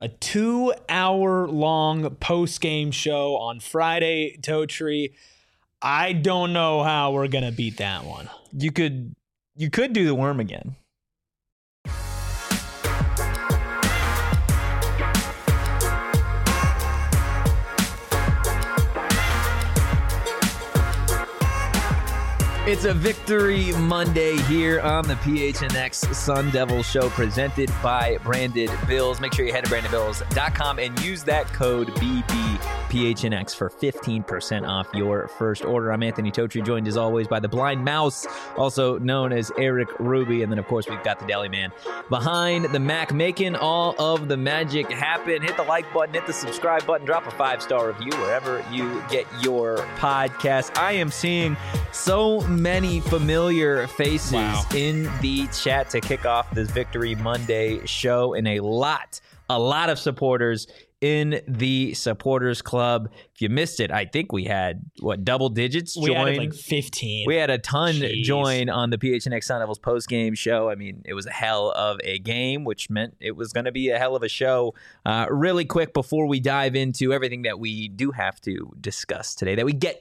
A 2-hour long post-game show on Friday, Totri. I don't know how we're going to beat that one. You could do the worm again. It's a Victory Monday here on the PHNX Sun Devil Show, presented by Branded Bills. Make sure you head to brandedbills.com and use that code BBPHNX for 15% off your first order. I'm Anthony Totri, joined as always by the Blind Mouse, also known as Eric Ruby. And then, of course, we've got the Deli Man behind the Mac, making all of the magic happen. Hit the like button, hit the subscribe button, drop a 5-star review wherever you get your podcast. I am seeing so many familiar faces in the chat to kick off this Victory Monday show, and a lot of supporters in the supporters club. If you missed it, I think we had double digits join. We had like 15. We had a ton join on the PHNX Sun Devils post-game show. I mean, it was a hell of a game, which meant it was going to be a hell of a show. Really quick before we dive into everything that we do have to discuss today,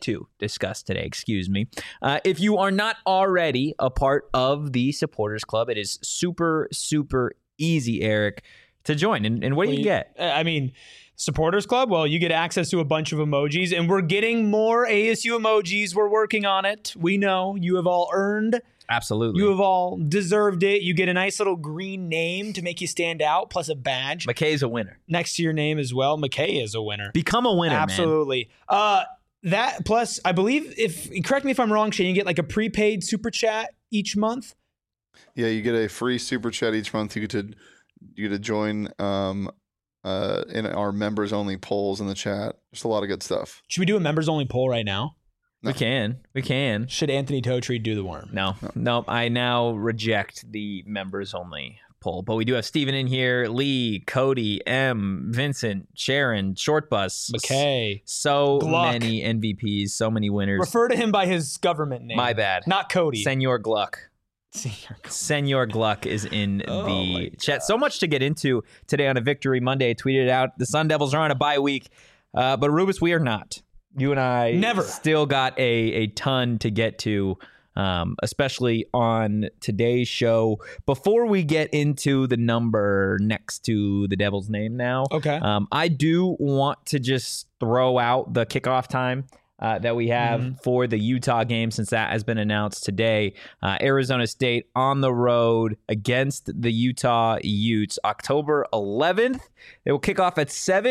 excuse me. If you are not already a part of the supporters club, it is super, super easy, Eric, to join. And what do you get? I mean, supporters club, well, you get access to a bunch of emojis, and we're getting more ASU emojis. We're working on it. We know you have all earned. Absolutely. You have all deserved it. You get a nice little green name to make you stand out, plus a badge. McKay's a winner. Next to your name as well. McKay is a winner. Become a winner, Absolutely. Man. That plus, I believe, correct me if I'm wrong, Shane, you get like a prepaid super chat each month. Yeah, you get a free super chat each month. You get to join in our members only polls in the chat. Just a lot of good stuff. Should we do a members only poll right now? No. We can. Should Anthony Totri do the worm? No. I now reject the members only poll. But we do have Steven in here, Lee, Cody, M, Vincent, Sharon, Shortbus, McKay, Gluck. Many MVPs, so many winners. Refer to him by his government name. My bad. Not Cody. Senor Gluck. Senor Gluck is in the chat. So much to get into today on a Victory Monday. Tweeted out the Sun Devils are on a bye week, but Rubus, we are not. You and I never still got a ton to get to, especially on today's show. Before we get into the number next to the Devil's name now, okay. I do want to just throw out the kickoff time that we have for the Utah game, since that has been announced today. Arizona State on the road against the Utah Utes, October 11th. They will kick off at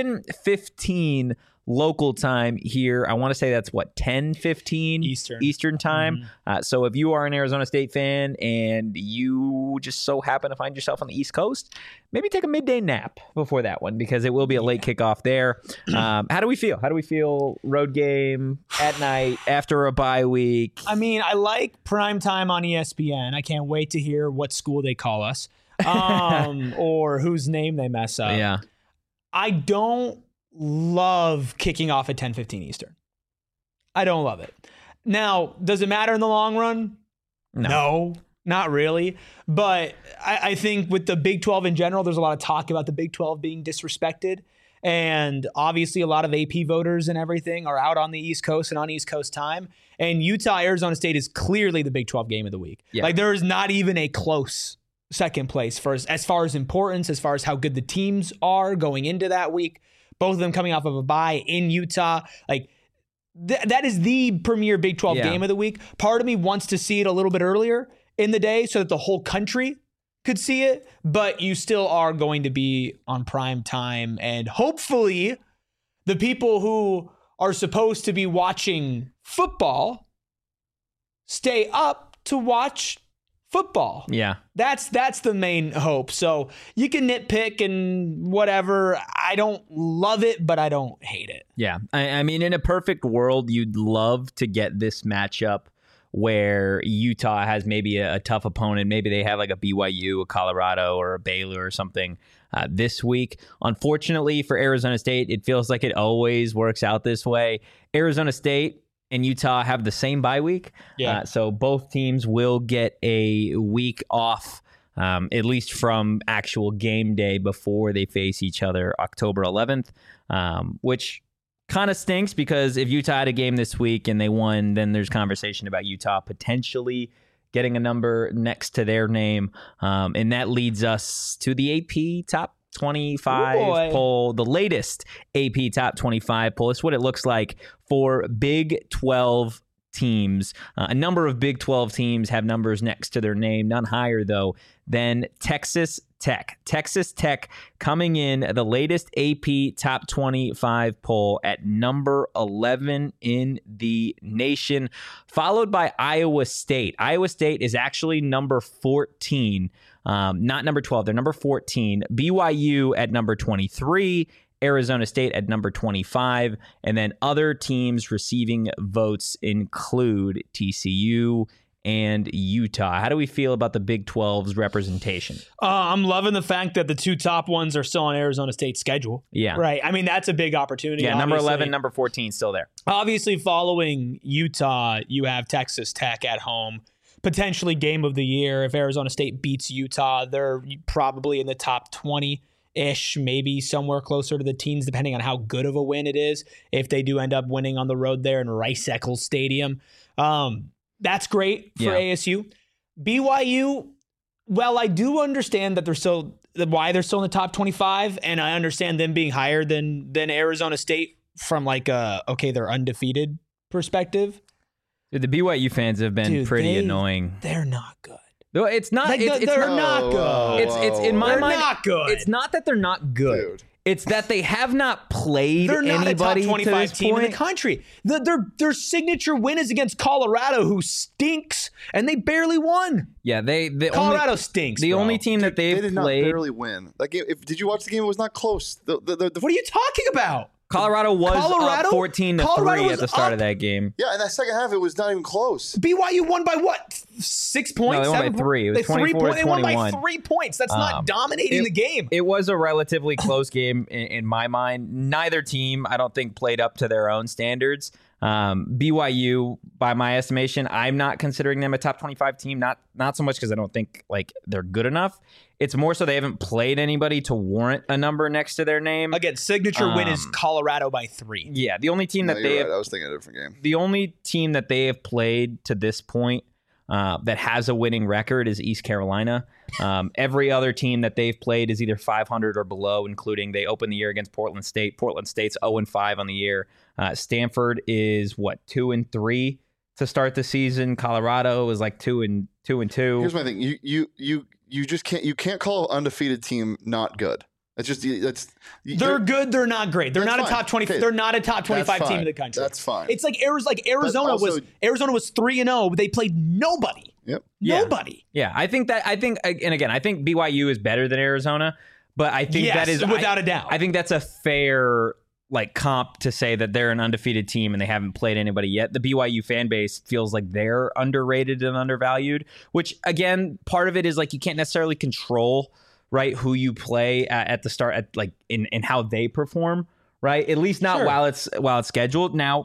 7:15 local time here. I want to say that's 10:15 Eastern time. So if you are an Arizona State fan and you just so happen to find yourself on the East Coast, maybe take a midday nap before that one, because it will be a late kickoff there. How do we feel? Road game at night after a bye week. I mean, I like prime time on ESPN. I can't wait to hear what school they call us, or whose name they mess up. Yeah. I don't love kicking off at 10:15 Eastern. I don't love it. Now, does it matter in the long run? No, not really. But I think with the Big 12 in general, there's a lot of talk about the Big 12 being disrespected. And obviously a lot of AP voters and everything are out on the East Coast and on East Coast time. And Utah, Arizona State is clearly the Big 12 game of the week. Yeah. Like, there is not even a close second place as far as importance, as far as how good the teams are going into that week. Both of them coming off of a bye in Utah. Like, that is the premier Big 12 game of the week. Part of me wants to see it a little bit earlier in the day so that the whole country could see it, but you still are going to be on prime time. And hopefully the people who are supposed to be watching football stay up to watch football. Yeah. That's the main hope. So you can nitpick and whatever. I don't love it, but I don't hate it. Yeah. I mean, in a perfect world, you'd love to get this matchup where Utah has maybe a tough opponent. Maybe they have like a BYU, a Colorado, or a Baylor or something this week. Unfortunately for Arizona State, it feels like it always works out this way. Arizona State and Utah have the same bye week. Yeah. So both teams will get a week off at least from actual game day before they face each other October 11th, which kind of stinks because if Utah had a game this week and they won, then there's conversation about Utah potentially getting a number next to their name. And that leads us to the AP Top 25 poll, the latest AP Top 25 poll. It's what it looks like for Big 12 teams. A number of Big 12 teams have numbers next to their name, none higher, though, than Texas Tech. Texas Tech coming in the latest AP Top 25 poll at number 11 in the nation, followed by Iowa State. Iowa State is actually number 14, not number 12. They're number 14. BYU at number 23. Arizona State at number 25, and then other teams receiving votes include TCU and Utah. How do we feel about the Big 12's representation? I'm loving the fact that the two top ones are still on Arizona State's schedule. Yeah. Right. I mean, that's a big opportunity. Yeah, number 11, number 14 still there. Obviously, following Utah, you have Texas Tech at home. Potentially game of the year. If Arizona State beats Utah, they're probably in the top 20-ish, maybe somewhere closer to the teens, depending on how good of a win it is. If they do end up winning on the road there in Rice-Eccles Stadium. That's great for ASU. BYU, well, I do understand that why they're still in the top 25, and I understand them being higher than Arizona State from they're undefeated perspective. Dude, the BYU fans have been pretty annoying. They're not good. No, it's not. They're not good. It's in my mind. They're not good. It's not that they're not good. Dude. It's that they have not played They're not anybody a top 25 to this team point. in the country. Their signature win is against Colorado, who stinks, and they barely won. Yeah, Colorado stinks. The bro. only team that They they've did not played. barely win. That game. Did you watch the game? It was not close. What are you talking about? Colorado was up 14-3 at the start of that game. Yeah, in that second half, it was not even close. BYU won by what? 6 points? No, they won by 3. It was 24-21. They won by 3 points. That's not dominating the game. It was a relatively close game in my mind. Neither team, I don't think, played up to their own standards. BYU, by my estimation, I'm not considering them a top 25 team. Not so much because I don't think they're good enough. It's more so they haven't played anybody to warrant a number next to their name. Again, signature win is Colorado by 3. Yeah, the only team that they right. I was thinking a different game. The only team that they have played to this point that has a winning record is East Carolina. Every other team that they've played is either 500 or below, including they opened the year against Portland State. Portland State's 0-5 on the year. Stanford is 2-3 to start the season. Colorado is 2-2. Here's my thing. You just can't call an undefeated team not good. They're good. They're not great. They're not a top 20. Okay. They're not a top 25 team in the country. That's fine. It's like Arizona was 3-0. But they played nobody. Yep. Nobody. Yeah, I think BYU is better than Arizona, but I think that is without a doubt. I think that's a fair comp to say that they're an undefeated team and they haven't played anybody yet. The BYU fan base feels like they're underrated and undervalued, which again, part of it is you can't necessarily control who you play at the start in how they perform, right? At least not while it's scheduled. Now,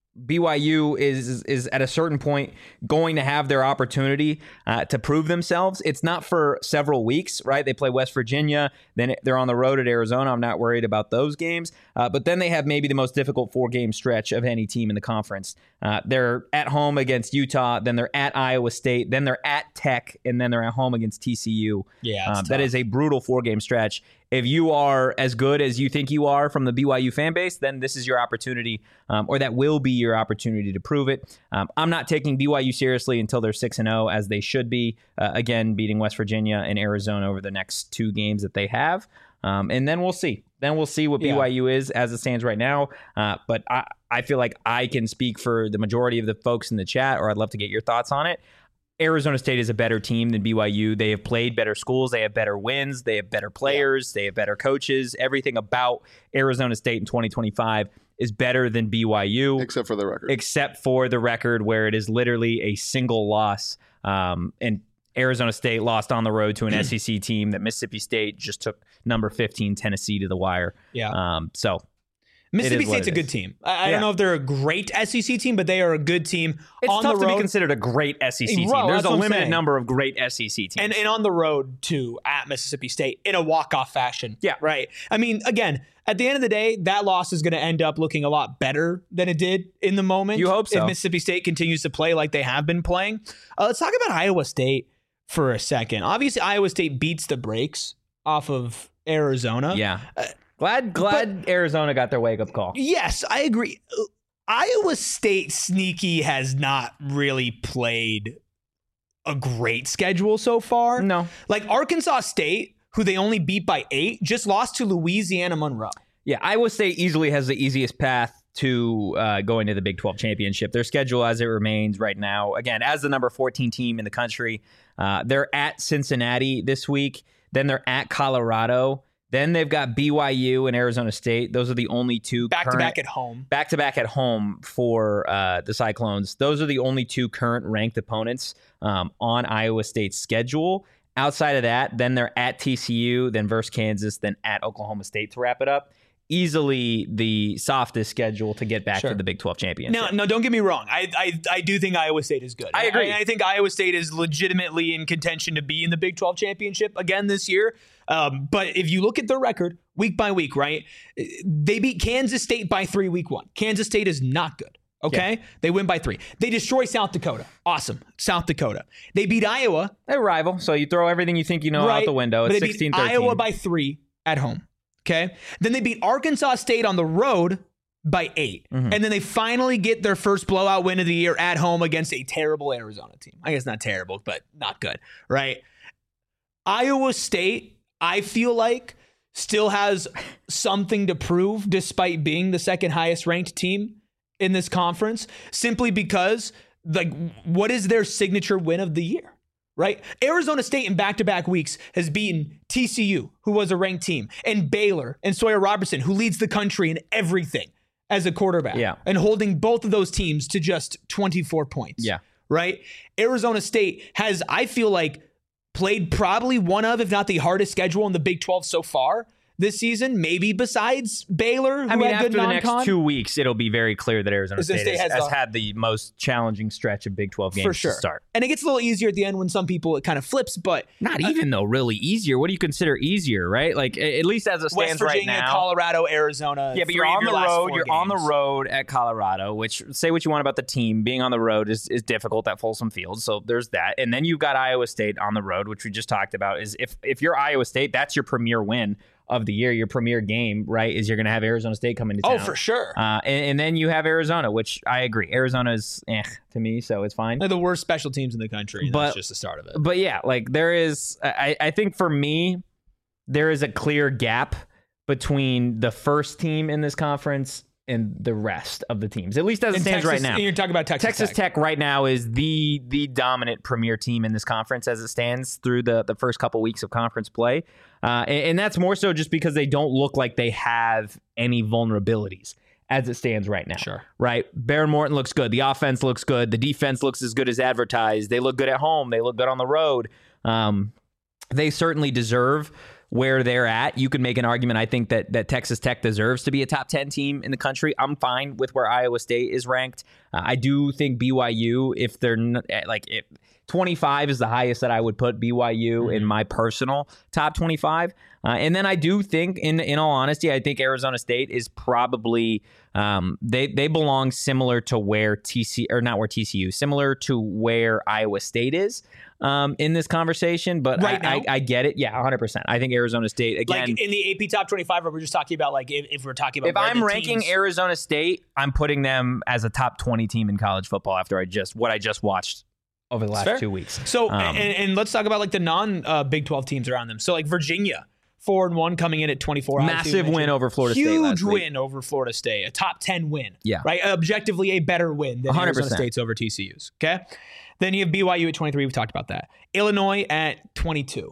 BYU is at a certain point going to have their opportunity to prove themselves. It's not for several weeks, right? They play West Virginia, then they're on the road at Arizona. I'm not worried about those games. But then they have maybe the most difficult 4-game stretch of any team in the conference. They're at home against Utah, then they're at Iowa State, then they're at Tech, and then they're at home against TCU. Yeah, that is a brutal 4-game stretch. If you are as good as you think you are from the BYU fan base, then this is your opportunity, or that will be your opportunity to prove it. I'm not taking BYU seriously until they're 6-0, as they should be, again, beating West Virginia and Arizona over the next 2 games that they have. And then we'll see. Then we'll see what BYU is as it stands right now. But I feel like I can speak for the majority of the folks in the chat, or I'd love to get your thoughts on it. Arizona State is a better team than BYU. They have played better schools. They have better wins. They have better players. They have better coaches. Everything about Arizona State in 2025 is better than BYU. Except for the record. Except for the record where it is literally a single loss. And Arizona State lost on the road to an SEC team that Mississippi State just took number 15 Tennessee to the wire. Yeah. So Mississippi is what State's a it good is. team. I don't know if they're a great SEC team, but they are a good team. It's on tough the road, to be considered a great SEC team. Right, There's that's a what I'm limited saying. number of great SEC teams. and on the road too at Mississippi State in a walk-off fashion. Yeah. Right. I mean, again, at the end of the day, that loss is going to end up looking a lot better than it did in the moment. You hope so. If Mississippi State continues to play like they have been playing. Let's talk about Iowa State for a second. Obviously, Iowa State beats the brakes off of Arizona. yeah. Glad Arizona got their wake-up call. Yes, I agree. Iowa State sneaky has not really played a great schedule so far. No. Like Arkansas State, who they only beat by 8, just lost to Louisiana Monroe. Yeah, Iowa State easily has the easiest path to going to the Big 12 championship. Their schedule as it remains right now, again, as the number 14 team in the country, they're at Cincinnati this week. Then they're at Colorado. Then they've got BYU and Arizona State. Those are the only two Back-to-back at home. Back-to-back at home for the Cyclones. Those are the only two current ranked opponents on Iowa State's schedule. Outside of that, then they're at TCU, then versus Kansas, then at Oklahoma State to wrap it up. Easily the softest schedule to get back to the Big 12 championship. No, don't get me wrong. I do think Iowa State is good. I agree. I think Iowa State is legitimately in contention to be in the Big 12 championship again this year. But if you look at their record week by week, right, they beat Kansas State by 3 week 1. Kansas State is not good. Okay. Yeah. They win by 3. They destroy South Dakota. Awesome. South Dakota. They beat Iowa. They're a rival, so you throw everything you think you know out the window. But It's they beat 16-13. Iowa by 3 at home. Okay. Then they beat Arkansas State on the road by 8. Mm-hmm. And then they finally get their first blowout win of the year at home against a terrible Arizona team. I guess not terrible, but not good. Right. Iowa State, I feel like, still has something to prove despite being the second highest ranked team in this conference, simply because, like, what is their signature win of the year? Right? Arizona State in back-to-back weeks has beaten TCU, who was a ranked team, and Baylor and Sawyer Robertson, who leads the country in everything as a quarterback. Yeah. And holding both of those teams to just 24 points. Yeah. Right? Arizona State has, I feel like, played probably one of, if not the hardest schedule in the Big 12 so far this season, maybe besides Baylor, who I mean, had after good the non-con. next 2 weeks, it'll be very clear that Arizona Arizona State State has had the most challenging stretch of Big 12 games for sure. to start. And it gets a little easier at the end when some people, it kind of flips, but Not even, though, really easier. What do you consider easier, right? Like, at least as it stands West Virginia, right now. Colorado, Arizona. Yeah, but you're 3 of on your the last road. 4 You're on the games. road at Colorado, which, say what you want about the team, being on the road is difficult at Folsom Field. So there's that. And then you've got Iowa State on the road, which we just talked about. Is if you're Iowa State, that's your premier win of the year, your premier game, right? Is you're going to have Arizona State coming to town. Oh, for sure. And then you have Arizona, which I agree. Arizona is to me, so it's fine. They're the worst special teams in the country. And that's just the start of it. But yeah, like there is, I think for me, there is a clear gap between the first team in this conference and the rest of the teams, at least as it stands right now. You're talking about Texas Tech right now is the dominant premier team in this conference as it stands through the first couple weeks of conference play. And that's more so just because they don't look like they have any vulnerabilities as it stands right now. Sure. Right? Baron Morton looks good. The offense looks good. The defense looks as good as advertised. They look good at home. They look good on the road. They certainly deserve where they're at. You could make an argument, I think, that Texas Tech deserves to be a top 10 team in the country. I'm fine with where Iowa State is ranked. I do think BYU, if they're if 25 is the highest that I would put BYU in my personal top 25. And then I do think, in all honesty, I think Arizona State is probably they belong similar to where similar to where Iowa State is in this conversation. But right now? I get it. Yeah, 100%. I think Arizona State, again, like in the AP top 25, or we're just talking about like if we're talking about if I'm ranking teams. Arizona State, I'm putting them as a top 20 team in college football after what I just watched over the last 2 weeks. So and let's talk about like the non Big 12 teams around them. So like Virginia, 4-1 coming in at 24. Massive win over Florida State last Huge week. win over Florida State. A top 10 win. Yeah. Right? Objectively a better win than 100%. Arizona State's over TCU's. Okay? Then you have BYU at 23. We've talked about that. Illinois at 22.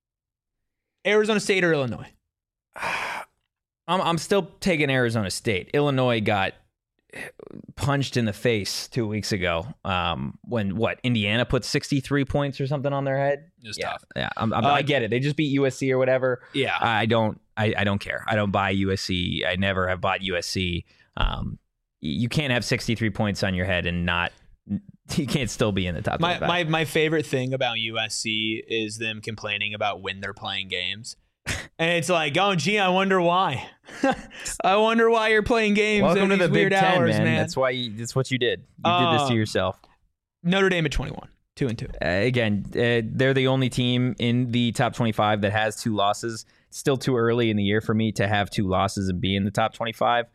Arizona State or Illinois? I'm still taking Arizona State. Illinois got punched in the face 2 weeks ago when Indiana put 63 points or something on their head. It was tough. Yeah, I get it. They just beat USC or whatever. Yeah. I don't care. I don't buy USC. I never have bought USC. You can't have 63 points on your head and not. You can't still be in the top 25. My favorite thing about USC is them complaining about when they're playing games. And it's like, oh, gee, I wonder why. I wonder why you're playing games. Welcome to the weird Big Ten, hours, man. That's what you did. You did this to yourself. Notre Dame at 21, 2-2. Again, they're the only team in the top 25 that has 2 losses. It's still too early in the year for me to have 2 losses and be in the top 25.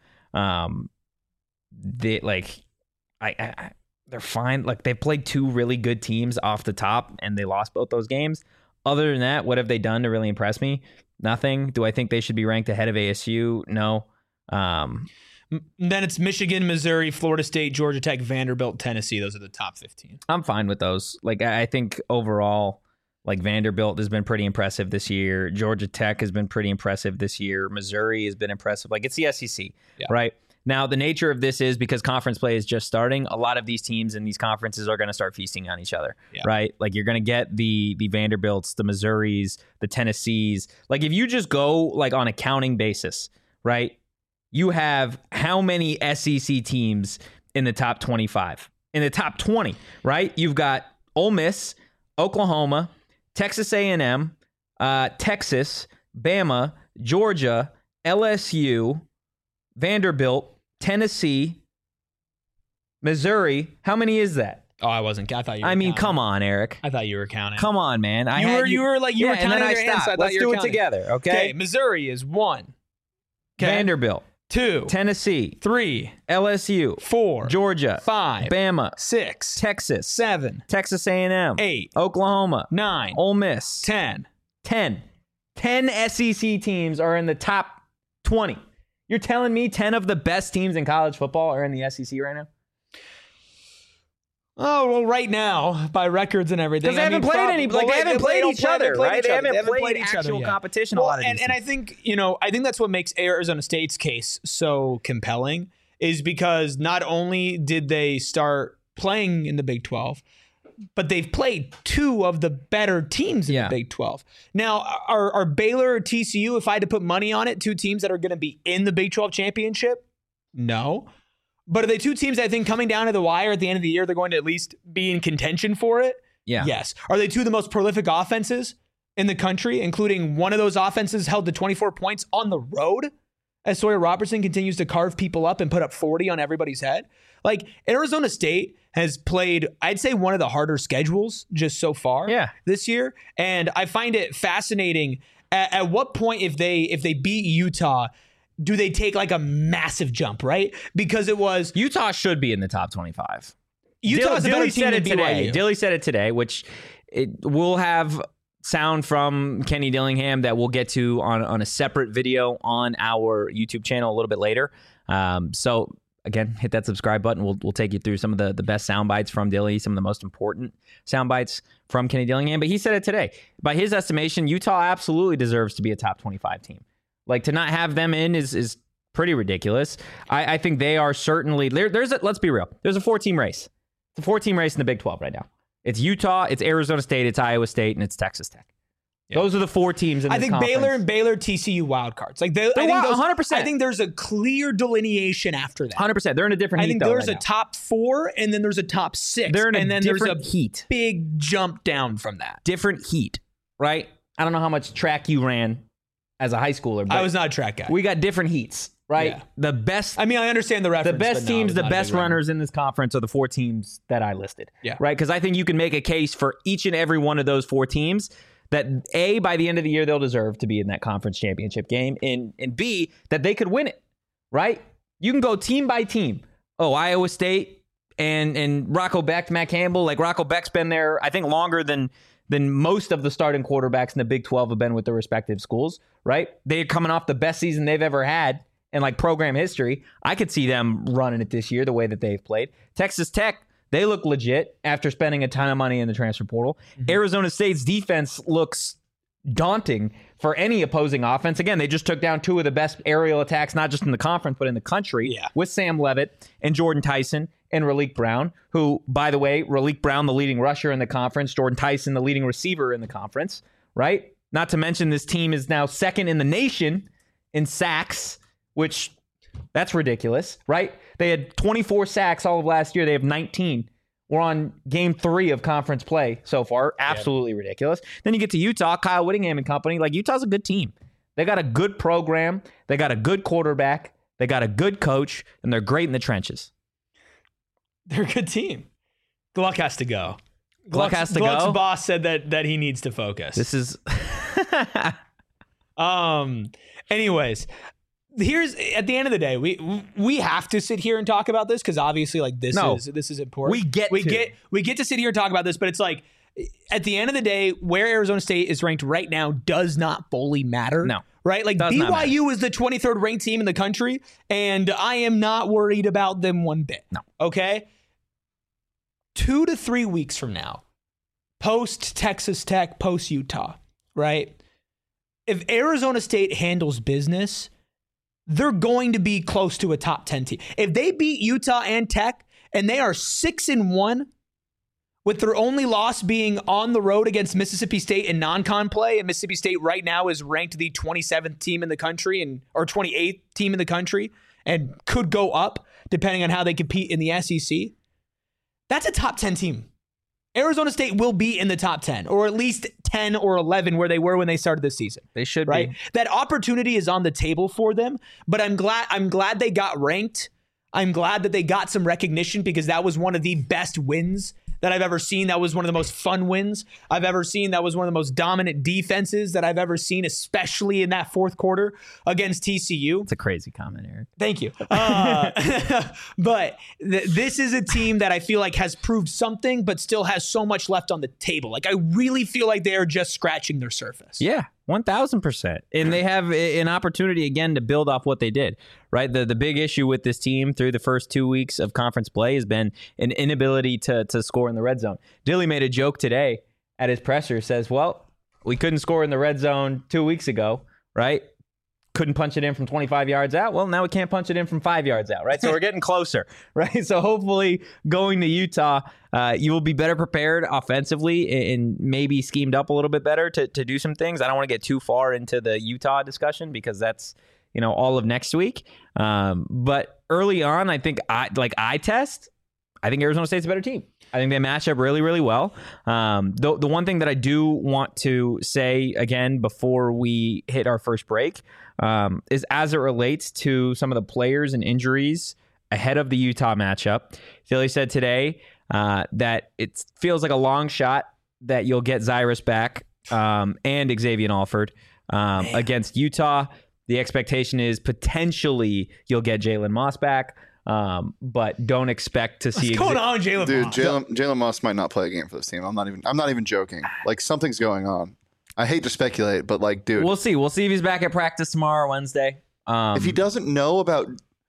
They're fine. Like, they played 2 really good teams off the top, and they lost both those games. Other than that, what have they done to really impress me? Nothing. Do I think they should be ranked ahead of ASU? No. Then it's Michigan, Missouri, Florida State, Georgia Tech, Vanderbilt, Tennessee. Those are the top 15. I'm fine with those. Like, I think overall, like, Vanderbilt has been pretty impressive this year. Georgia Tech has been pretty impressive this year. Missouri has been impressive. Like, it's the SEC, right? Now, the nature of this is because conference play is just starting, a lot of these teams in these conferences are going to start feasting on each other, right? Like, you're going to get the Vanderbilts, the Missouris, the Tennessees. Like, if you just go, like, on a counting basis, right, you have how many SEC teams in the top 25? In the top 20, right? You've got Ole Miss, Oklahoma, Texas A&M, Texas, Bama, Georgia, LSU, Vanderbilt, Tennessee, Missouri. How many is that? Oh, I wasn't. I thought you were counting. Come on, Eric. I thought you were counting. Come on, man. You were counting and then I your hands, stopped. so I thought Let's you were do it counting. together, okay? Missouri is 1. Vanderbilt. 2. Tennessee. 3. LSU. 4. Georgia. 5. Bama. 6. Texas. 7. Texas A&M. 8. Oklahoma. 9. Ole Miss. 10. 10 SEC teams are in the top 20. You're telling me 10 of the best teams in college football are in the SEC right now? Oh, well, right now, by records and everything. Because they haven't played any. Like, they haven't played each other, right? They haven't played each other actual yet. competition a lot of these and I think, I think that's what makes Arizona State's case so compelling, is because not only did they start playing in the Big 12, but they've played 2 of the better teams in the Big 12. Now, are Baylor or TCU, if I had to put money on it, 2 teams that are going to be in the Big 12 championship? No. But are they 2 teams that I think coming down to the wire at the end of the year, they're going to at least be in contention for it? Yeah. Yes. Are they 2 of the most prolific offenses in the country, including one of those offenses held to 24 points on the road as Sawyer Robertson continues to carve people up and put up 40 on everybody's head? Like, Arizona State has played, I'd say, one of the harder schedules just so far this year. And I find it fascinating at what point, if they beat Utah, do they take like a massive jump, right? Because it was Utah should be in the top 25. Utah's a better team than BYU. Dilly said it today, which we'll have sound from Kenny Dillingham that we'll get to on a separate video on our YouTube channel a little bit later. So again, hit that subscribe button. We'll take you through some of the best sound bites from Dilly, some of the most important sound bites from Kenny Dillingham. But he said it today. By his estimation, Utah absolutely deserves to be a top 25 team. Like, to not have them in is pretty ridiculous. I think they are certainly let's be real. There's a 4-team race. It's a 4-team race in the Big 12 right now. It's Utah, it's Arizona State, it's Iowa State, and it's Texas Tech. Yeah. Those are the 4 teams in this conference. Baylor, TCU wild cards. Like, they're 100%. I think there's a clear delineation after that. 100%. They're in a different heat. I think there's a top 4, and then there's a top 6. They're in and then different there's a heat. Big jump down from that. Different heat, right? I don't know how much track you ran as a high schooler. But I was not a track guy. We got different heats, right? Yeah. The best. I mean, I understand the reference. The best teams, the best runners in this conference are the 4 teams that I listed. Yeah. Right? Because I think you can make a case for each and every one of those 4 teams that A, by the end of the year, they'll deserve to be in that conference championship game, and B, that they could win it, right? You can go team by team. Oh, Iowa State and Rocco Beck, Matt Campbell. Like, Rocco Beck's been there, I think, longer than most of the starting quarterbacks in the Big 12 have been with their respective schools, right? They're coming off the best season they've ever had in, like, program history. I could see them running it this year the way that they've played. Texas Tech, they look legit after spending a ton of money in the transfer portal. Mm-hmm. Arizona State's defense looks daunting for any opposing offense. Again, they just took down two of the best aerial attacks, not just in the conference, but in the country, with Sam Levitt and Jordan Tyson and Raleek Brown, who, by the way, Raleek Brown, the leading rusher in the conference, Jordan Tyson, the leading receiver in the conference, right? Not to mention this team is now second in the nation in sacks, which that's ridiculous, right? They had 24 sacks all of last year. They have 19. We're on game 3 of conference play so far. Absolutely ridiculous. Then you get to Utah, Kyle Whittingham and company. Like, Utah's a good team. They got a good program. They got a good quarterback. They got a good coach, and they're great in the trenches. They're a good team. Gluck has to go. Gluck has to Gluck's go? boss said that he needs to focus. This is... Anyways, here's, at the end of the day, we have to sit here and talk about this because obviously, like, this is important. We get to sit here and talk about this, but it's like, at the end of the day, where Arizona State is ranked right now does not fully matter. No. Right? Like, BYU is the 23rd ranked team in the country, and I am not worried about them one bit. No. Okay? 2 to 3 weeks from now, post Texas Tech, post Utah, right? If Arizona State handles business, they're going to be close to a top 10 team. If they beat Utah and Tech, and they are 6-1, with their only loss being on the road against Mississippi State in non-con play, and Mississippi State right now is ranked the 27th team in the country or 28th team in the country and could go up depending on how they compete in the SEC. That's a top 10 team. Arizona State will be in the top 10, or at least 10 or 11 where they were when they started this season. They should be. That opportunity is on the table for them, but I'm glad they got ranked. I'm glad that they got some recognition because that was one of the best wins that I've ever seen. That was one of the most fun wins I've ever seen. That was one of the most dominant defenses that I've ever seen, especially in that fourth quarter against TCU. It's a crazy comment, Eric. Thank you. But this is a team that I feel like has proved something, but still has so much left on the table. Like, I really feel like they are just scratching their surface. Yeah, 1,000%. And they have an opportunity, again, to build off what they did, right? The big issue with this team through the first 2 weeks of conference play has been an inability to score in the red zone. Dilly made a joke today at his presser, says, well, we couldn't score in the red zone 2 weeks ago, right? Couldn't punch it in from 25 yards out. Well, now we can't punch it in from 5 yards out, right? So we're getting closer, right? So hopefully going to Utah, you will be better prepared offensively and maybe schemed up a little bit better to do some things. I don't want to get too far into the Utah discussion because that's, all of next week. But early on, I think eye test, I think Arizona State's a better team. I think they match up really, really well. The one thing that I do want to say again before we hit our first break is as it relates to some of the players and injuries ahead of the Utah matchup. Philly said today that it feels like a long shot that you'll get Zyrus back and Xavier Alford against Utah. The expectation is potentially you'll get Jalen Moss back. But don't expect to see. What's going on, Jalen Moss? Dude, Jalen Moss might not play a game for this team. I'm not even joking. Like, something's going on. I hate to speculate, but like, dude, we'll see. We'll see if he's back at practice tomorrow, Wednesday. If he doesn't know about,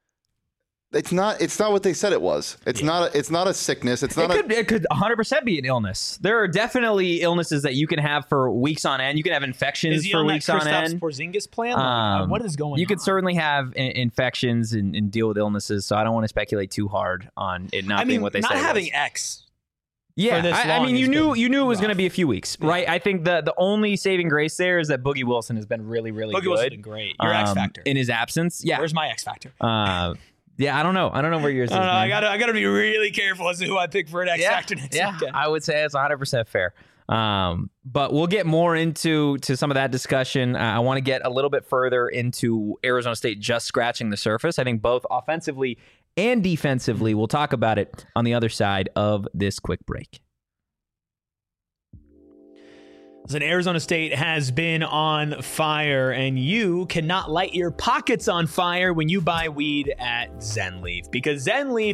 it's not what they said it was. It's not a sickness. It could 100% be an illness. There are definitely illnesses that you can have for weeks on end. You can have infections for weeks on end. Porzingis plan? What is going on? You could certainly have infections and deal with illnesses. So I don't want to speculate too hard on it not being what they say. Not having X. Yeah, I mean, you knew it was going to be a few weeks, right? I think the only saving grace there is that Boogie Wilson has been really, really good. Boogie Wilson's been great. Your X factor in his absence. Yeah, where's my X factor? Yeah, I don't know where yours is. I gotta be really careful as to who I pick for an X factor next weekend. I would say it's 100% fair. But we'll get more into some of that discussion. I want to get a little bit further into Arizona State just scratching the surface. I think both offensively and defensively. We'll talk about it on the other side of this quick break. Listen, Arizona State has been on fire, and you cannot light your pockets on fire when you buy weed at ZenLeaf, because ZenLeaf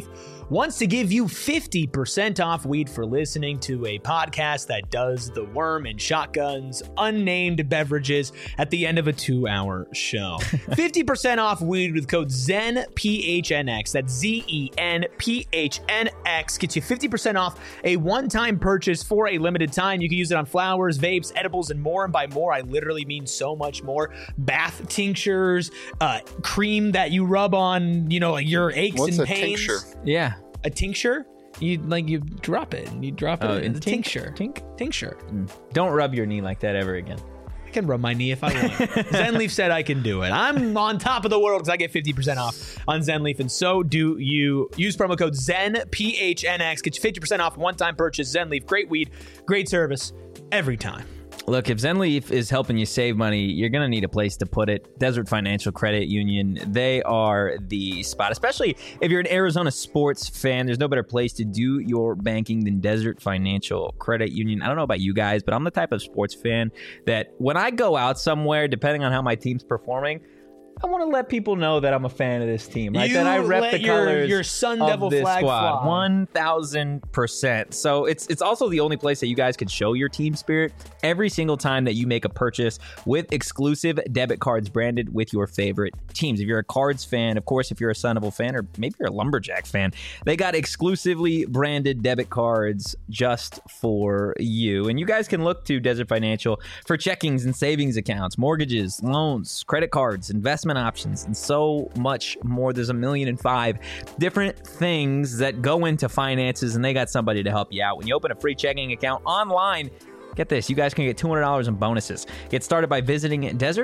wants to give you 50% off weed for listening to a podcast that does the worm and shotguns unnamed beverages at the end of a 2-hour show. 50% off weed with code ZENPHNX. That's ZENPHNX. Gets you 50% off a one-time purchase for a limited time. You can use it on flowers, vapes, edibles, and more. And by more, I literally mean so much more. Bath tinctures, cream that you rub on, your aches and pains. Tincture? Yeah. A tincture? You drop it and you drop it in the tincture. Tincture. Don't rub your knee like that ever again. I can rub my knee if I want. Zenleaf said I can do it. I'm on top of the world because I get 50% off on Zenleaf, and so do you. Use promo code ZENPHNX. Get you 50% off one-time purchase. Zenleaf, great weed, great service every time. Look, if Zenleaf is helping you save money, you're going to need a place to put it. Desert Financial Credit Union, they are the spot, especially if you're an Arizona sports fan. There's no better place to do your banking than Desert Financial Credit Union. I don't know about you guys, but I'm the type of sports fan that when I go out somewhere, depending on how my team's performing, I want to let people know that I'm a fan of this team. Like that I rep the colors your Sun of Devil this flag squad. fly. 1,000%. So it's also the only place that you guys can show your team spirit every single time that you make a purchase with exclusive debit cards branded with your favorite teams. If you're a Cards fan, of course, if you're a Sun Devil fan, or maybe you're a Lumberjack fan, they got exclusively branded debit cards just for you. And you guys can look to Desert Financial for checkings and savings accounts, mortgages, loans, credit cards, investment options, and so much more. There's 1,000,005 different things that go into finances, and they got somebody to help you out. When you open a free checking account online, get this, you guys can get $200 in bonuses. Get started by visiting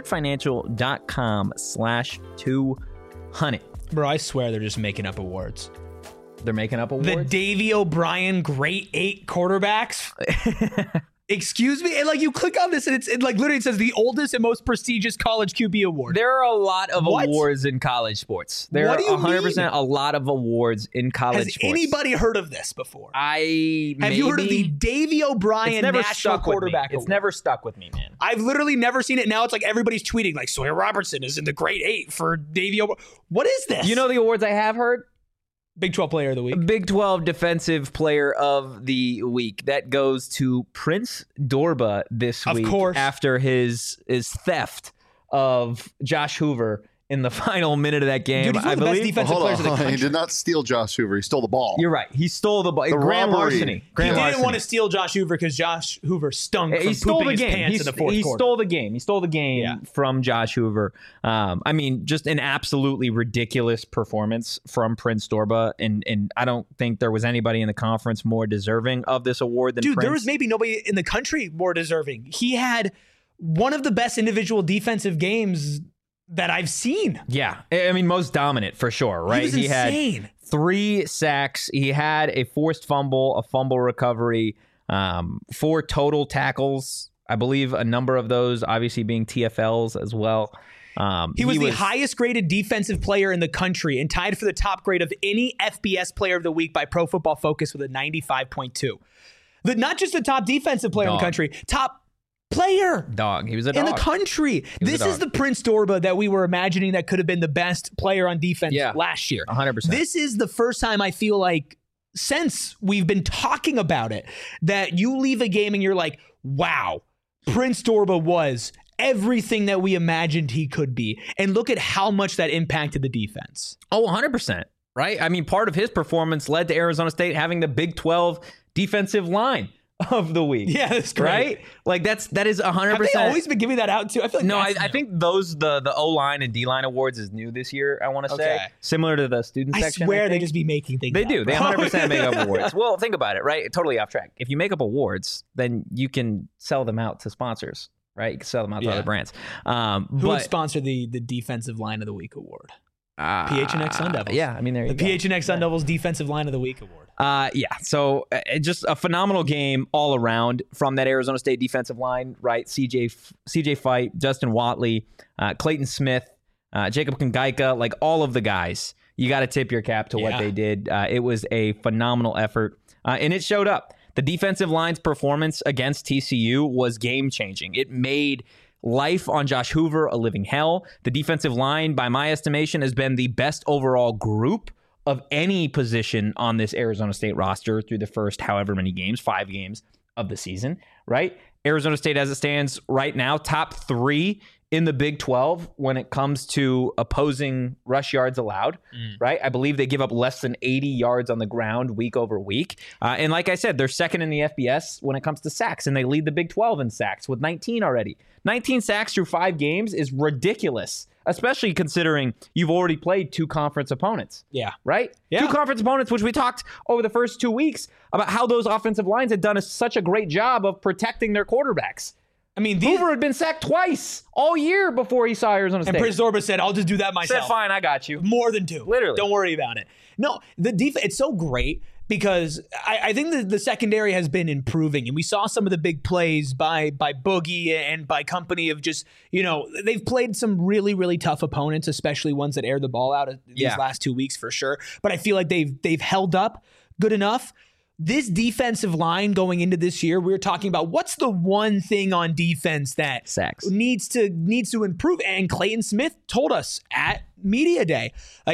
desertfinancial.com/200. Bro, I swear they're just making up awards. They're making up awards? The Davey O'Brien Great 8 quarterbacks. Excuse me? And you click on this and it literally says the oldest and most prestigious college QB award. There are a lot of awards in college sports. There are 100% a lot of awards in college sports. Has anybody heard of this before? Have you heard of the Davey O'Brien National Quarterback Award? It's never stuck with me, man. I've literally never seen it. Now it's everybody's tweeting Sawyer Robertson is in the Great 8 for Davey O'Brien. What is this? You know the awards I have heard? Big 12 Player of the Week. Big 12 Defensive Player of the Week. That goes to Prince Dorbah this week. Of course. After his theft of Josh Hoover in the final minute of that game. Dude, he's one of the best defensive players in the country. He did not steal Josh Hoover. He stole the ball. You're right. He stole the ball. Grand larceny. He didn't want to steal Josh Hoover because Josh Hoover stunk from pooping his pants in the fourth quarter. He stole the game from Josh Hoover. Just an absolutely ridiculous performance from Prince Dorbah, and I don't think there was anybody in the conference more deserving of this award than Prince. There was maybe nobody in the country more deserving. He had one of the best individual defensive games that I've seen. Yeah. Most dominant for sure, right? He was insane. Had 3 sacks. He had a forced fumble, a fumble recovery, 4 total tackles. I believe a number of those obviously being TFLs as well. He was the highest graded defensive player in the country and tied for the top grade of any FBS Player of the Week by Pro Football Focus with a 95.2. Not just the top defensive player in the country, top player. He was a dog. In the country. This is the Prince Dorbah that we were imagining that could have been the best player on defense last year. 100%. This is the first time I feel since we've been talking about it, that you leave a game and you're like, wow, Prince Dorbah was everything that we imagined he could be. And look at how much that impacted the defense. Oh, 100%. Right? Part of his performance led to Arizona State having the Big 12 defensive line of the week. Yeah, that's great. Right? that is 100%. Have they always been giving that out too? I feel I think those the O-line and D-line awards is new this year, I want to say. Similar to the student section. I swear they just be making things They up. do. They 100% make up awards. Well, think about it, right? Totally off track. If you make up awards, then you can sell them out to sponsors, right? You can sell them out to other brands. Who would sponsor the Defensive Line of the Week award? PHNX Sun Devils. Yeah, there you go. The PHNX Sun Devils Defensive Line of the Week award. So just a phenomenal game all around from that Arizona State defensive line, right? CJ Fight, Justin Watley, Clayton Smith, Jacob Kongaika, all of the guys. You got to tip your cap to what they did. It was a phenomenal effort, and it showed up. The defensive line's performance against TCU was game-changing. It made life on Josh Hoover a living hell. The defensive line, by my estimation, has been the best overall group of any position on this Arizona State roster through the first however many games, 5 games of the season, right? Arizona State, as it stands right now, top 3 in the Big 12 when it comes to opposing rush yards allowed, right? I believe they give up less than 80 yards on the ground week over week. And like I said, they're second in the FBS when it comes to sacks, and they lead the Big 12 in sacks with 19 already. 19 sacks through 5 games is ridiculous, especially considering you've already played 2 conference opponents. Yeah. Right? Yeah. 2 conference opponents, which we talked over the first 2 weeks about how those offensive lines had done such a great job of protecting their quarterbacks. I mean, Hoover had been sacked twice all year before he saw Arizona State. And Prince Zorba said, I'll just do that myself. Said, fine, I got you. More than 2. Literally. Don't worry about it. No, the defense, it's so great because I think the secondary has been improving, and we saw some of the big plays by Boogie and by company of just, they've played some really, really tough opponents, especially ones that air the ball out these last 2 weeks for sure. But I feel like they've held up good enough. This defensive line going into this year, we're talking about what's the one thing on defense that sacks needs to improve. And Clayton Smith told us at media day,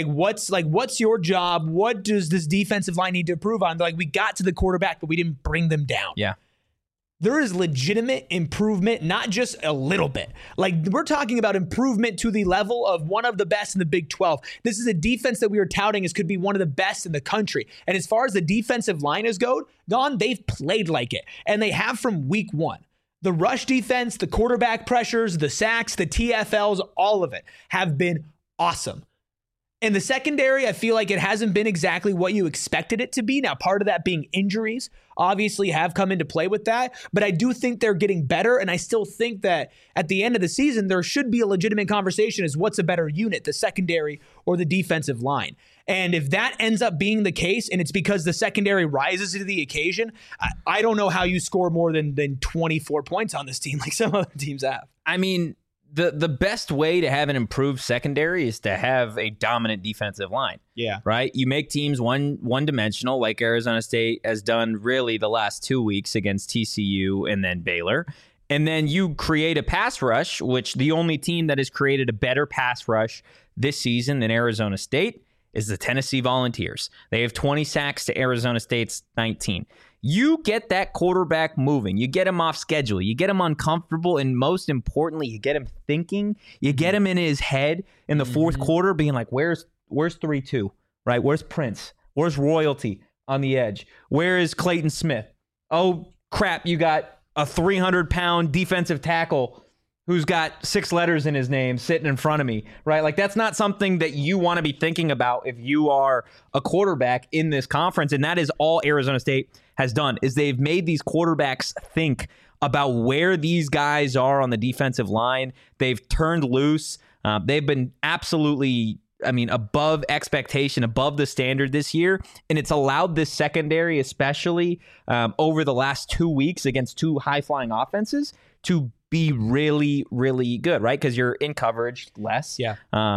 what's your job? What does this defensive line need to improve on? They're like, we got to the quarterback, but we didn't bring them down. Yeah. There is legitimate improvement, not just a little bit. Like, we're talking about improvement to the level of one of the best in the Big 12. This is a defense that we are touting as could be one of the best in the country. And as far as the defensive line has gone, they've played like it. And they have from week 1. The rush defense, the quarterback pressures, the sacks, the TFLs, all of it have been awesome. In the secondary, I feel like it hasn't been exactly what you expected it to be. Now, part of that being injuries obviously have come into play with that, but I do think they're getting better, and I still think that at the end of the season, there should be a legitimate conversation as what's a better unit, the secondary or the defensive line. And if that ends up being the case, and it's because the secondary rises to the occasion, I don't know how you score more than 24 points on this team like some other teams have. I mean, the best way to have an improved secondary is to have a dominant defensive line. Yeah. Right? You make teams one-dimensional, like Arizona State has done really the last 2 weeks against TCU and then Baylor. And then you create a pass rush, which the only team that has created a better pass rush this season than Arizona State is the Tennessee Volunteers. They have 20 sacks to Arizona State's 19. You get that quarterback moving. You get him off schedule. You get him uncomfortable. And most importantly, you get him thinking. You get him in his head in the fourth quarter being like, where's 3-2, right? Where's Prince? Where's Royalty on the edge? Where is Clayton Smith? Oh, crap, you got a 300-pound defensive tackle who's got 6 letters in his name sitting in front of me, right? Like, that's not something that you want to be thinking about if you are a quarterback in this conference. And that is all Arizona State has done, is they've made these quarterbacks think about where these guys are on the defensive line. They've turned loose. They've been absolutely, above expectation, above the standard this year. And it's allowed this secondary, especially over the last 2 weeks against 2 high-flying offenses, to be really, really good, right? Because you're in coverage less. Yeah.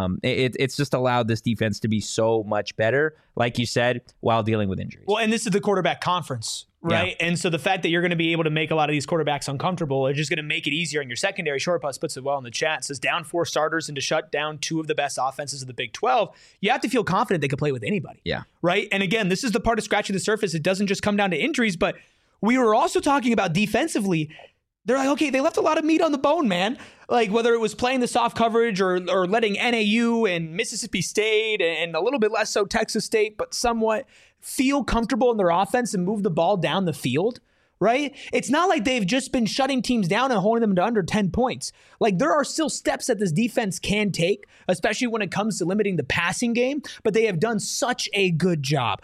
It's just allowed this defense to be so much better, like you said, while dealing with injuries. Well, and this is the quarterback conference, right? Yeah. And so the fact that you're going to be able to make a lot of these quarterbacks uncomfortable is just going to make it easier in your secondary. Shortbus puts it well in the chat. It says down 4 starters and to shut down 2 of the best offenses of the Big 12. You have to feel confident they can play with anybody. Yeah. Right? And again, this is the part of scratching the surface. It doesn't just come down to injuries, but we were also talking about defensively. They're like, okay, they left a lot of meat on the bone, man. Like, whether it was playing the soft coverage or letting NAU and Mississippi State and a little bit less so Texas State, but somewhat feel comfortable in their offense and move the ball down the field, right? It's not like they've just been shutting teams down and holding them to under 10 points. Like, there are still steps that this defense can take, especially when it comes to limiting the passing game, but they have done such a good job,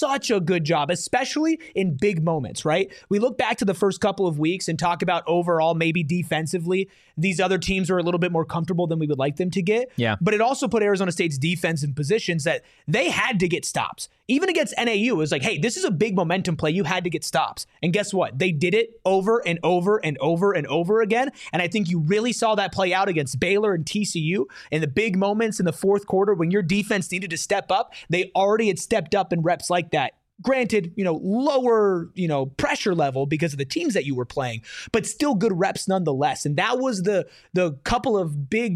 especially in big moments, right? We look back to the first couple of weeks and talk about overall, maybe defensively, these other teams are a little bit more comfortable than we would like them to get. Yeah. But it also put Arizona State's defense in positions that they had to get stops. Even against NAU, it was like, hey, this is a big momentum play. You had to get stops. And guess what? They did it over and over and over and over again. And I think you really saw that play out against Baylor and TCU in the big moments in the fourth quarter when your defense needed to step up. They already had stepped up in reps like that. Granted, lower, pressure level because of the teams that you were playing, but still good reps nonetheless. And that was the couple of big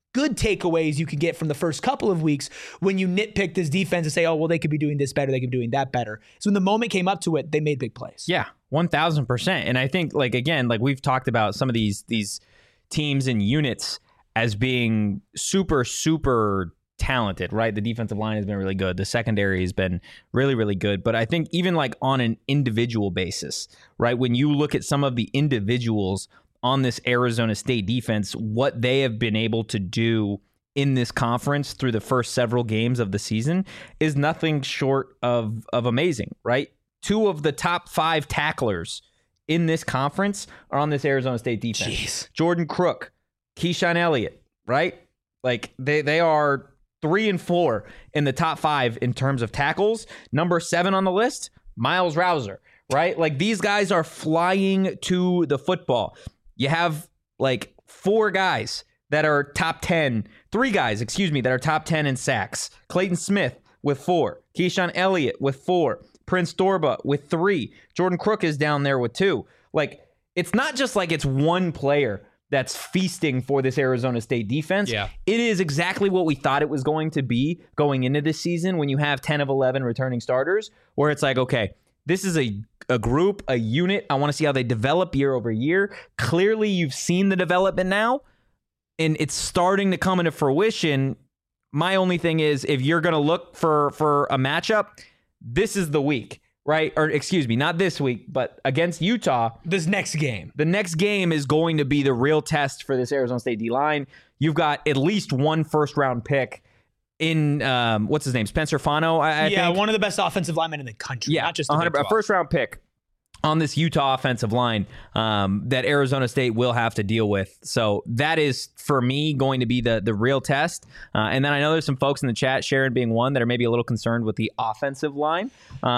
good takeaways you could get from the first couple of weeks when you nitpick this defense and say, oh, well, they could be doing this better, they could be doing that better. So when the moment came up to it, they made big plays. Yeah, 1,000%. And I think, like, again, like we've talked about some of these teams and units as being super, super talented, right? The defensive line has been really good. The secondary has been really, really good. But I think even like on an individual basis, right? When you look at some of the individuals on this Arizona State defense, what they have been able to do in this conference through the first several games of the season is nothing short of amazing, right? 2 of the top 5 tacklers in this conference are on this Arizona State defense. Jeez. Jordan Crook, Keyshawn Elliott, right? Like they are 3 and 4 in the top 5 in terms of tackles. Number 7 on the list, Miles Rouser, right? Like these guys are flying to the football. You have like 4 guys that are top 10, 3 guys, excuse me, that are top 10 in sacks. Clayton Smith with 4, Keyshawn Elliott with 4, Prince Dorba with 3, Jordan Crook is down there with 2. Like it's not just like it's one player that's feasting for this Arizona State defense. Yeah. It is exactly what we thought it was going to be going into this season when you have 10 of 11 returning starters, where it's like, okay, this is a group, a unit. I want to see how they develop year over year. Clearly, you've seen the development now, and it's starting to come into fruition. My only thing is, if you're going to look for a matchup, this is the week. Right? Or excuse me, not this week, but against Utah. This next game. The next game is going to be the real test for this Arizona State D-line. You've got at least 1 first-round pick in, what's his name? Spencer Fano, I think. One of the best offensive linemen in the country. Yeah, not just a first-round pick on this Utah offensive line that Arizona State will have to deal with. So that is, for me, going to be the real test. And then I know there's some folks in the chat, Sharon being one, that are maybe a little concerned with the offensive line.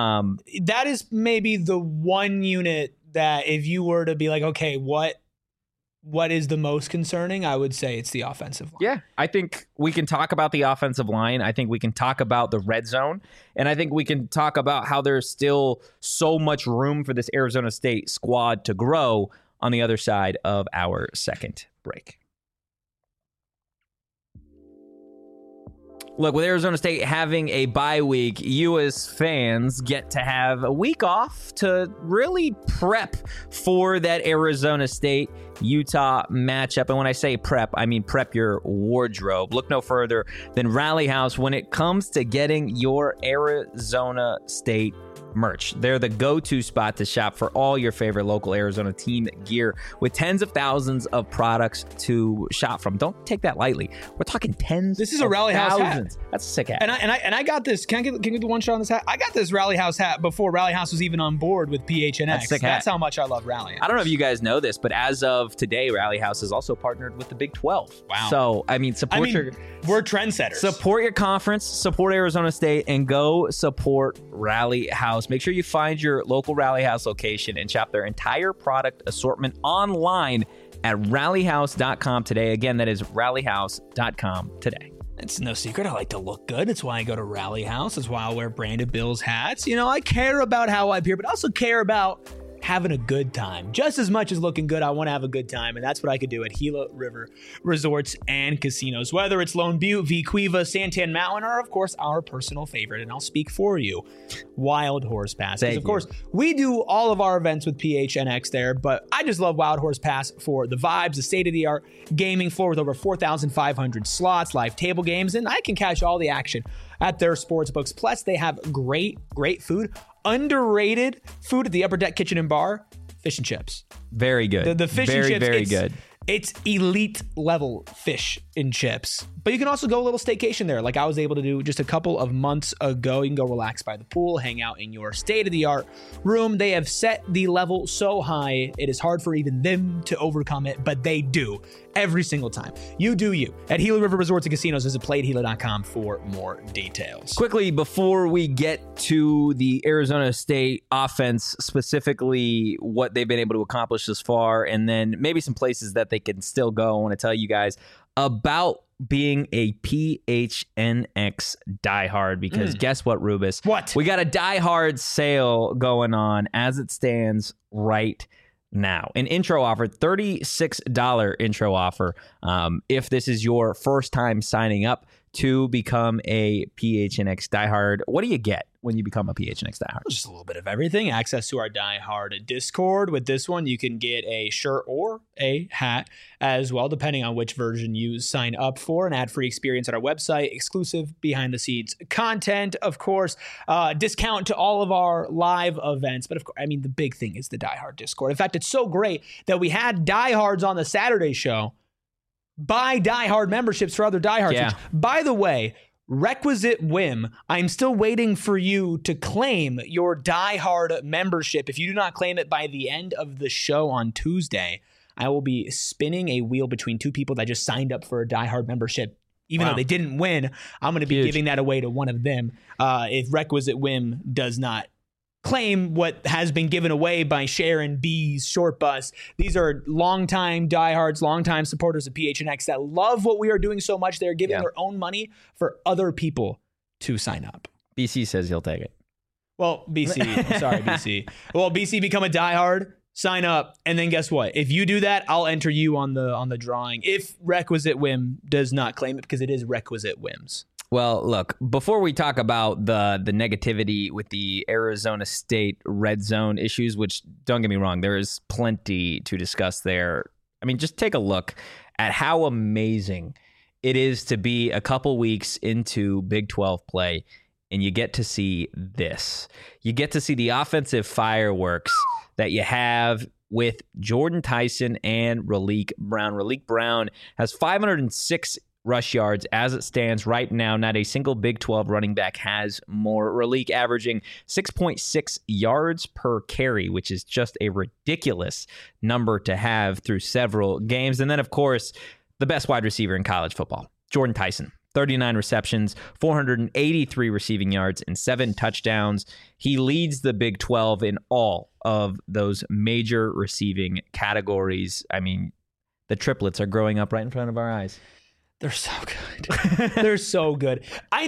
That is maybe the one unit that if you were to be like, okay, what is the most concerning? I would say it's the offensive line. Yeah, I think we can talk about the offensive line. I think we can talk about the red zone. And I think we can talk about how there's still so much room for this Arizona State squad to grow on the other side of our second break. Look, with Arizona State having a bye week, you as fans get to have a week off to really prep for that Arizona State-Utah matchup. And when I say prep, I mean prep your wardrobe. Look no further than Rally House when it comes to getting your Arizona State merch. They're the go-to spot to shop for all your favorite local Arizona team gear with tens of thousands of products to shop from. Don't take that lightly. We're talking tens. This is a Rally House hat. That's a sick hat. And I got this. Can I get the one shot on this hat? I got this Rally House hat before Rally House was even on board with PHNX. That's a sick hat. That's how much I love Rally House. I don't know if you guys know this, but as of today, Rally House is also partnered with the Big 12. Wow. So, we're trendsetters. Support your conference, support Arizona State, and go support Rally House. Make sure you find your local Rally House location and shop their entire product assortment online at rallyhouse.com today. Again, that is rallyhouse.com today. It's no secret. I like to look good. It's why I go to Rally House. It's why I wear Branded Bills hats. You know, I care about how I appear, but I also care about having a good time. Just as much as looking good, I want to have a good time, and that's what I could do at Gila River Resorts and Casinos. Whether it's Lone Butte, Vequeva, Santan Mountain, or, of course, our personal favorite, and I'll speak for you, Wild Horse Pass. Because, of course, we do all of our events with PHNX there, but I just love Wild Horse Pass for the vibes, the state-of-the-art gaming floor with over 4,500 slots, live table games, and I can catch all the action at their sports books. Plus, they have great food. Underrated food at the Upper Deck Kitchen and Bar, fish and chips. Very good. The fish and chips. Very good. It's elite level fish and chips. But you can also go a little staycation there, like I was able to do just a couple of months ago. You can go relax by the pool, hang out in your state-of-the-art room. They have set the level so high, it is hard for even them to overcome it, but they do every single time. You do you. At Gila River Resorts and Casinos, visit playatgila.com for more details. Quickly, before we get to the Arizona State offense, specifically what they've been able to accomplish this far, and then maybe some places that they can still go, I want to tell you guys about being a PHNX diehard, because guess what, Rubus? What? We got a diehard sale going on as it stands right now. An intro offer, $36 intro offer. If this is your first time signing up to become a PHNX diehard, what do you get when you become a PHNX diehard? Just a little bit of everything. Access to our diehard Discord. With this one, you can get a shirt or a hat as well, depending on which version you sign up for. An ad-free experience at our website, exclusive behind-the-scenes content, of course, discount to all of our live events. But of course, I mean, the big thing is the diehard Discord. In fact, it's so great that we had diehards on the Saturday show buy diehard memberships for other diehards. Yeah. Which, by the way, requisite whim, I'm still waiting for you to claim your diehard membership. If you do not claim it by the end of the show on Tuesday, I will be spinning a wheel between two people that just signed up for a diehard membership. Even though they didn't win, I'm going to be giving that away to one of them. If requisite whim does not claim what has been given away by Sharon B's Short Bus. These are longtime diehards, longtime supporters of PHNX that love what we are doing so much. They're giving their own money for other people to sign up. BC says he'll take it. Well, BC, sorry, BC. Well, BC, become a diehard, sign up, and then guess what? If you do that, I'll enter you on the drawing. If requisite whim does not claim it, because it is requisite whims. Well, look, before we talk about the negativity with the Arizona State red zone issues, which, don't get me wrong, there is plenty to discuss there. I mean, just take a look at how amazing it is to be a couple weeks into Big 12 play, and you get to see this. You get to see the offensive fireworks that you have with Jordan Tyson and Raleek Brown. Raleek Brown has 506 rush yards as it stands right now. Not a single Big 12 running back has more. Raleek averaging 6.6 yards per carry, which is just a ridiculous number to have through several games. And then, of course, the best wide receiver in college football, Jordan Tyson. 39 receptions, 483 receiving yards, and 7 touchdowns. He leads the Big 12 in all of those major receiving categories. I mean, the triplets are growing up right in front of our eyes. They're so good. They're so good.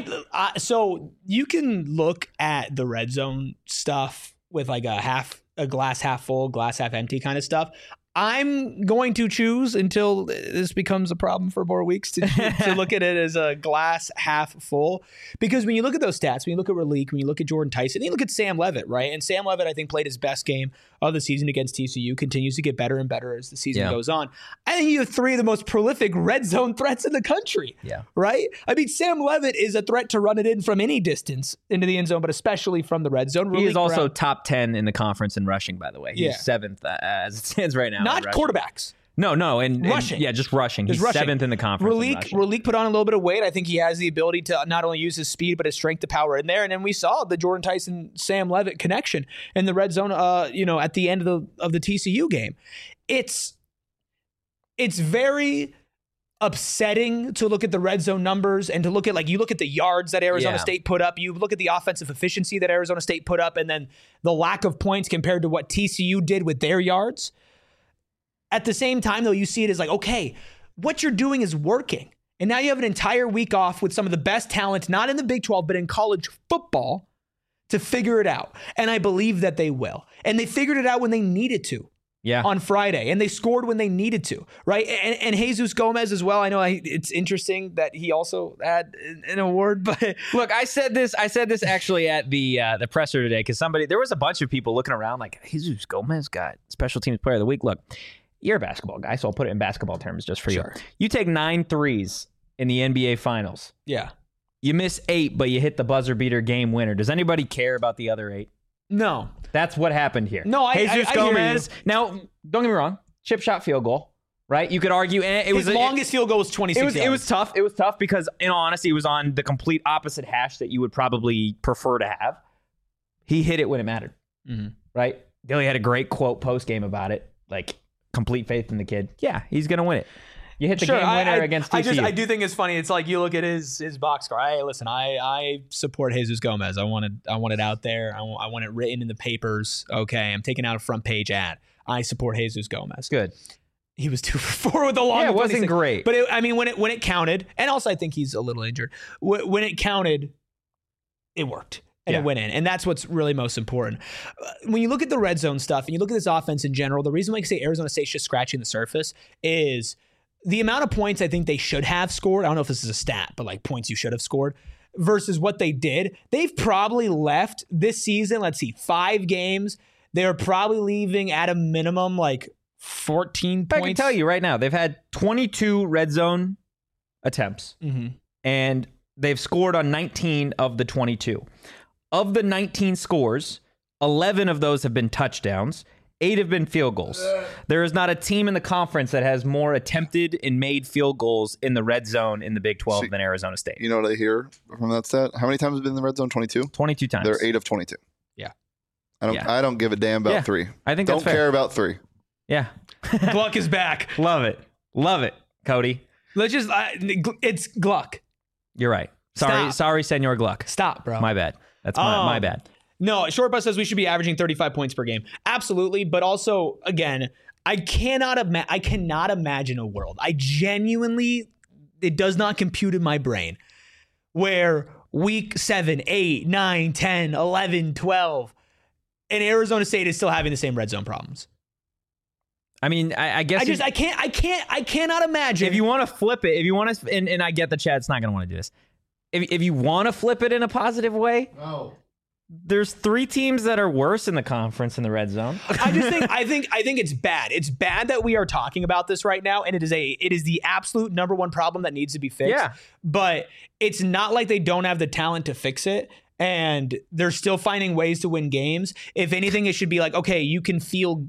So you can look at the red zone stuff with like a glass half full, glass half empty kind of stuff. I'm going to choose, until this becomes a problem for more weeks, to look at it as a glass half full. Because when you look at those stats, when you look at Raleek, when you look at Jordan Tyson, you look at Sam Levitt, right? And Sam Levitt, I think, played his best game of the season against TCU, continues to get better and better as the season goes on. I think you have 3 of the most prolific red zone threats in the country, right? I mean, Sam Levitt is a threat to run it in from any distance into the end zone, but especially from the red zone. He is also top 10 in the conference in rushing, by the way. He's 7th as it stands right now. Not quarterbacks. No, and rushing. Just rushing. He's rushing. 7th in the conference. Raleek put on a little bit of weight. I think he has the ability to not only use his speed, but his strength to power in there. And then we saw the Jordan Tyson, Sam Levitt connection in the red zone, at the end of the TCU game. It's very upsetting to look at the red zone numbers and to look at, you look at the yards that Arizona State put up, you look at the offensive efficiency that Arizona State put up, and then the lack of points compared to what TCU did with their yards. At the same time, though, you see it as okay, what you're doing is working. And now you have an entire week off with some of the best talent, not in the Big 12, but in college football, to figure it out. And I believe that they will. And they figured it out when they needed to. On Friday, and they scored when they needed to, right? And Jesus Gomez as well. I know it's interesting that he also had an award, but look, I said this actually at the presser today, because there was a bunch of people looking around like, Jesus Gomez got Special Teams Player of the Week. Look, you're a basketball guy, so I'll put it in basketball terms just for you. You take 9 threes in the NBA Finals. Yeah. You miss 8, but you hit the buzzer beater game winner. Does anybody care about the other 8? No. That's what happened here. No, Jesus Gomez. Now, don't get me wrong. Chip shot field goal, right? You could argue his longest field goal was 26 yards. It was tough. It was tough because, in all honesty, it was on the complete opposite hash that you would probably prefer to have. He hit it when it mattered, right? Billy had a great quote post-game about it, complete faith in the kid. Yeah, he's going to win it. You hit the game winner against TCU. I do think it's funny. It's you look at his box score. Listen, I support Jesus Gomez. I want it out there. I want it written in the papers. Okay, I'm taking out a front page ad. I support Jesus Gomez. Good. He was 2 for 4 with the long. Yeah, it wasn't great. But when it counted, and also I think he's a little injured. When it counted, it worked. and a win in. And that's what's really most important. When you look at the red zone stuff and you look at this offense in general, the reason why I say Arizona State's just scratching the surface is the amount of points I think they should have scored. I don't know if this is a stat, but like points you should have scored versus what they did. They've probably left this season, 5 games. They're probably leaving at a minimum like 14 points. I can tell you right now, they've had 22 red zone attempts, and they've scored on 19 of the 22. Of the 19 scores, 11 of those have been touchdowns. 8 have been field goals. There is not a team in the conference that has more attempted and made field goals in the red zone in the Big 12 than Arizona State. You know what I hear from that stat? How many times have been in the red zone? 22? 22 times. They're 8 of 22. Yeah. I don't give a damn about 3. I think don't that's fair. care about 3. Yeah. Gluck is back. Love it, Cody. Let's just, it's Gluck. You're right. Sorry, Senor Gluck. Stop, bro. My bad. That's my bad. No, Short Bus says we should be averaging 35 points per game. Absolutely, but also, again, I cannot imagine a world. I genuinely, it does not compute in my brain, where week 7, 8, 9, 10, 11, 12, and Arizona State is still having the same red zone problems. I mean, I guess I cannot imagine. If you want to flip it, if you want to, and I get the Chad's not going to want to do this. If you want to flip it in a positive way, no. There's 3 teams that are worse in the conference in the red zone. I think it's bad. It's bad that we are talking about this right now, and it is the absolute number one problem that needs to be fixed. Yeah. But it's not like they don't have the talent to fix it, and they're still finding ways to win games. If anything, it should be like, okay, you can feel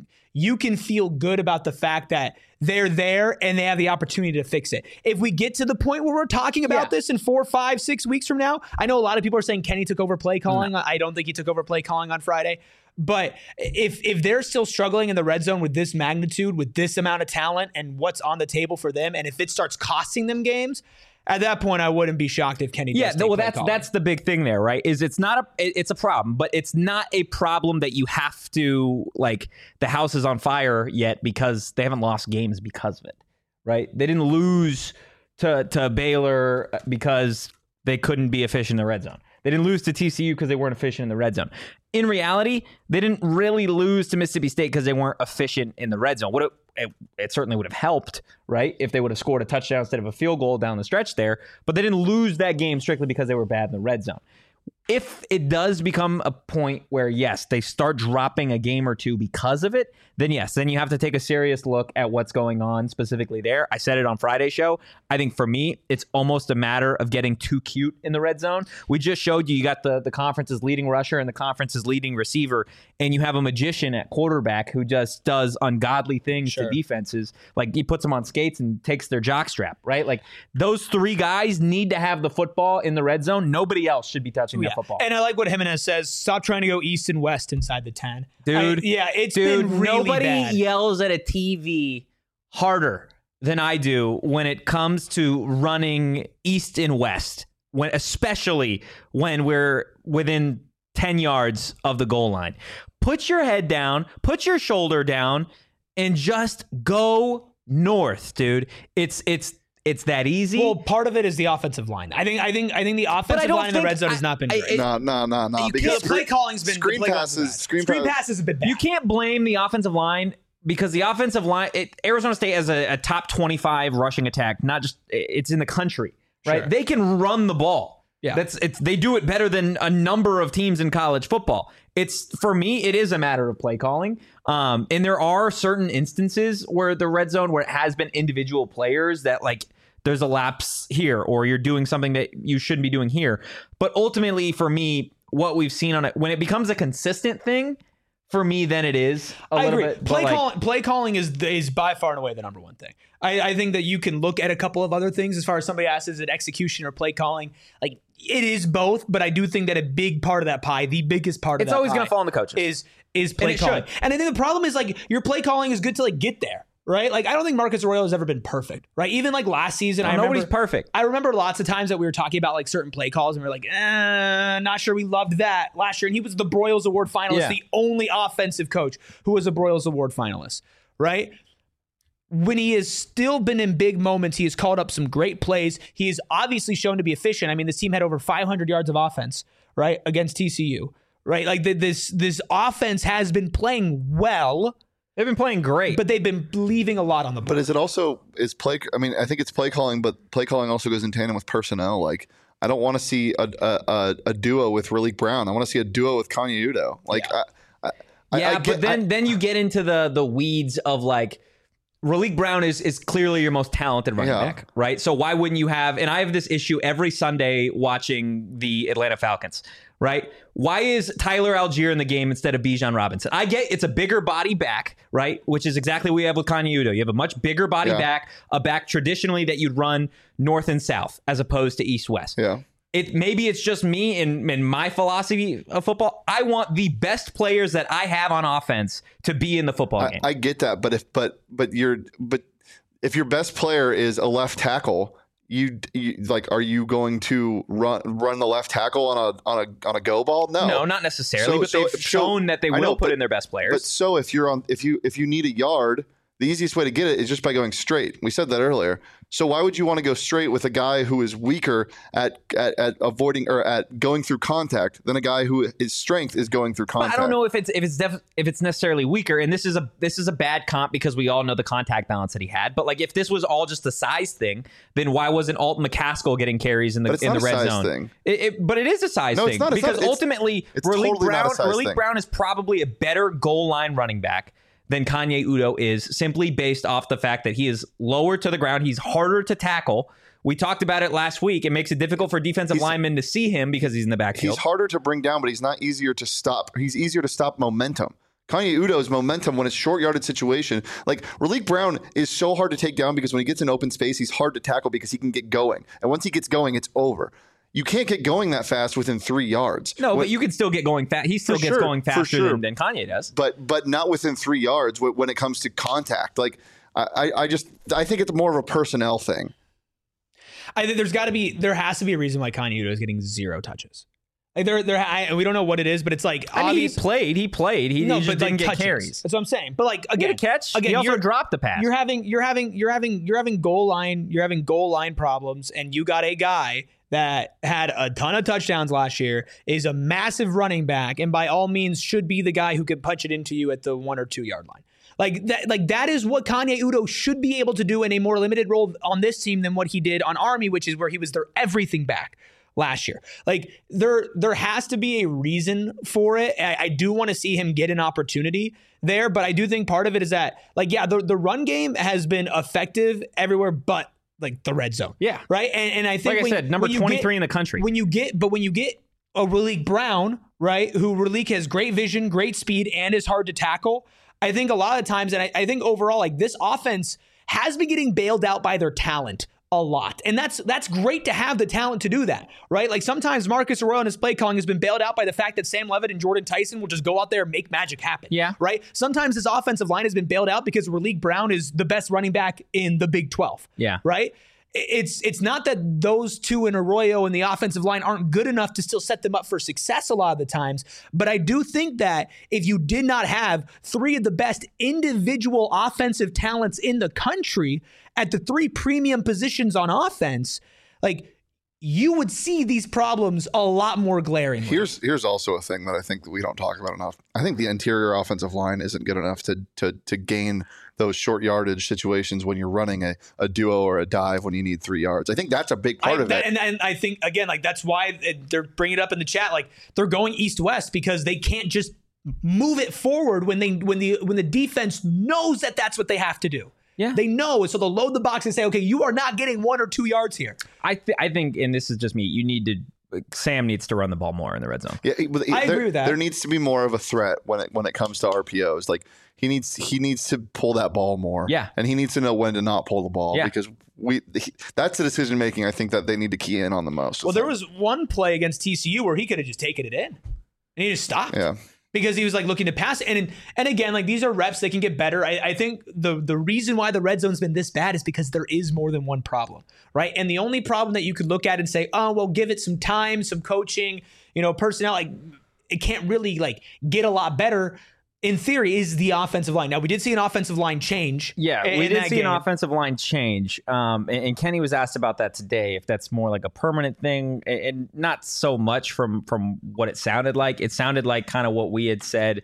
good about the fact that they're there and they have the opportunity to fix it. If we get to the point where we're talking about this in 4, 5, 6 weeks from now, I know a lot of people are saying Kenny took over play calling. No. I don't think he took over play calling on Friday. But if they're still struggling in the red zone with this magnitude, with this amount of talent and what's on the table for them, and if it starts costing them games, at that point, I wouldn't be shocked if Kenny does take play calling. That's the big thing there, right? Is it's a problem, but it's not a problem that you have to, like, the house is on fire yet because they haven't lost games because of it, right? They didn't lose to Baylor because they couldn't be efficient in the red zone. They didn't lose to TCU because they weren't efficient in the red zone. In reality, they didn't really lose to Mississippi State because they weren't efficient in the red zone. It certainly would have helped, right, if they would have scored a touchdown instead of a field goal down the stretch there. But they didn't lose that game strictly because they were bad in the red zone. If it does become a point where, yes, they start dropping a game or two because of it, then yes, then you have to take a serious look at what's going on specifically there. I said it on Friday's show. I think for me, it's almost a matter of getting too cute in the red zone. We just showed you got the conference's leading rusher and the conference's leading receiver, and you have a magician at quarterback who just does ungodly things to defenses. Like, he puts them on skates and takes their jockstrap, right? Like, those 3 guys need to have the football in the red zone. Nobody else should be touching that football. And I like what Jimenez says. Stop trying to go east and west inside the 10. Dude, it's been really nobody bad. Yells at a TV harder than I do when it comes to running east and west, especially when we're within 10 yards of the goal line. Put your head down, put your shoulder down, and just go north, dude. It's that easy. Well, part of it is the offensive line. I think the offensive line in the red zone has not been great. No. Because play calling's been screen passes have been bad. You can't blame the offensive line because the offensive line, Arizona State has a top 25 rushing attack. Not just it's in the country, right? Sure. They can run the ball. Yeah, they do it better than a number of teams in college football. For me, it is a matter of play calling. And there are certain instances where the red zone, where it has been individual players that, like, there's a lapse here, or you're doing something that you shouldn't be doing here. But ultimately, for me, what we've seen on it, when it becomes a consistent thing, for me, then it is a little bit. Play calling is by far and away the number one thing. I think that you can look at a couple of other things as far as somebody asks, is it execution or play calling? Like, it is both, but I do think that a big part of that pie, the biggest part of that pie, it's always going to fall on the coaches. Is play calling. And I think the problem is, like, your play calling is good to, like, get there. Right? Like, I don't think Marcus Arroyo has ever been perfect, right? Even like last season, nobody's perfect. I remember lots of times that we were talking about like certain play calls and we were like, not sure we loved that last year. And he was the Broyles Award finalist, the only offensive coach who was a Broyles Award finalist, right? when he has still been in big moments, he has called up some great plays. He is obviously shown to be efficient. I mean, this team had over 500 yards of offense, right, against TCU, right? Like this offense has been playing well. They've been playing great, but they've been leaving a lot on the board. But is it also play? I mean, I think it's play calling, but play calling also goes in tandem with personnel. Like, I don't want to see a duo with Raleek Brown. I want to see a duo with Kanye Udoh. Like, then you get into the weeds of like. Raleek Brown is clearly your most talented running back, right? So why wouldn't you have, and I have this issue every Sunday watching the Atlanta Falcons, right? Why is Tyler Algier in the game instead of Bijan Robinson? I get it's a bigger body back, right? Which is exactly what you have with Kanye Udoh. You have a much bigger body back, a back traditionally that you'd run north and south as opposed to east-west. Yeah. Maybe it's just me in my philosophy of football. I want the best players that I have on offense to be in the football game. I get that, but if your best player is a left tackle, you like, are you going to run the left tackle on a go ball? No, not necessarily. But they've shown that they will put in their best players. But so if you need a yard, the easiest way to get it is just by going straight. We said that earlier. So why would you want to go straight with a guy who is weaker at avoiding or at going through contact than a guy who his strength is going through contact? But I don't know if it's necessarily weaker. And this is a bad comp because we all know the contact balance that he had. But like if this was all just a size thing, then why wasn't Alton McCaskill getting carries in the red zone? Thing. But it is a size thing because ultimately Raleek Brown is probably a better goal line running back than Kanye Udoh is, simply based off the fact that he is lower to the ground. He's harder to tackle. We talked about it last week. It makes it difficult for defensive linemen to see him because he's in the backfield. He's harder to bring down, but he's not easier to stop. He's easier to stop momentum. Kanye Udoh's momentum when it's short yarded situation. Like Raleek Brown is so hard to take down because when he gets in open space, he's hard to tackle because he can get going. And once he gets going, it's over. You can't get going that fast within 3 yards. No, but you can still get going fast. He still gets going faster than Kanye does. But not within 3 yards when it comes to contact. Like I think it's more of a personnel thing. I think there has to be a reason why Kanye Udoh is getting 0 touches. Like we don't know what it is, but it's like he played. He just didn't get carries. That's what I'm saying. But like again, get a catch. Again, he also dropped the pass. You're having goal line problems, and you got a guy that had a ton of touchdowns last year, is a massive running back, and by all means should be the guy who could punch it into you at the 1 or 2 yard line. Like that is what Kanye Udoh should be able to do in a more limited role on this team than what he did on Army, which is where he was their everything back last year. Like there has to be a reason for it. I do want to see him get an opportunity there, but I do think part of it is that the run game has been effective everywhere but like the red zone. Yeah. Right. And I think like I said, number 23 in the country. When you get a Raleek Brown, right, who Raleek has great vision, great speed, and is hard to tackle, I think a lot of times, and I think overall, like this offense has been getting bailed out by their talent a lot. And that's great to have the talent to do that, right? Like sometimes Marcus Arroyo and his play calling has been bailed out by the fact that Sam Levitt and Jordan Tyson will just go out there and make magic happen. Yeah. Right? Sometimes this offensive line has been bailed out because Raleek Brown is the best running back in the Big 12. Yeah. Right? It's not that those two in Arroyo and the offensive line aren't good enough to still set them up for success a lot of the times. But I do think that if you did not have 3 of the best individual offensive talents in the country at the 3 premium positions on offense, like you would see these problems a lot more glaringly. Here's also a thing that I think that we don't talk about enough. I think the interior offensive line isn't good enough to gain those short yardage situations when you're running a duo or a dive when you need 3 yards. I think that's a big part of it. And I think, again, like that's why they're bringing it up in the chat. Like they're going east-west because they can't just move it forward when the defense knows that that's what they have to do. Yeah, they know, so they'll load the box and say, okay, you are not getting 1 or 2 yards here. I think, and this is just me, Sam needs to run the ball more in the red zone. Yeah, I agree with that. There needs to be more of a threat when it comes to RPOs. Like he needs to pull that ball more. Yeah, and he needs to know when to not pull the ball because that's the decision making I think that they need to key in on the most. Well, there was one play against TCU where he could have just taken it in, and he just stopped. Yeah. Because he was like looking to pass. And again, like these are reps, they can get better. I think the reason why the red zone's been this bad is because there is more than one problem, right? And the only problem that you could look at and say, oh, well, give it some time, some coaching, personnel, like it can't really like get a lot better in theory, is the offensive line. Now, we did see an offensive line change. Yeah, in we did that see game. an offensive line change. And Kenny was asked about that today, if that's more like a permanent thing, and not so much from what it sounded like. It sounded like kind of what we had said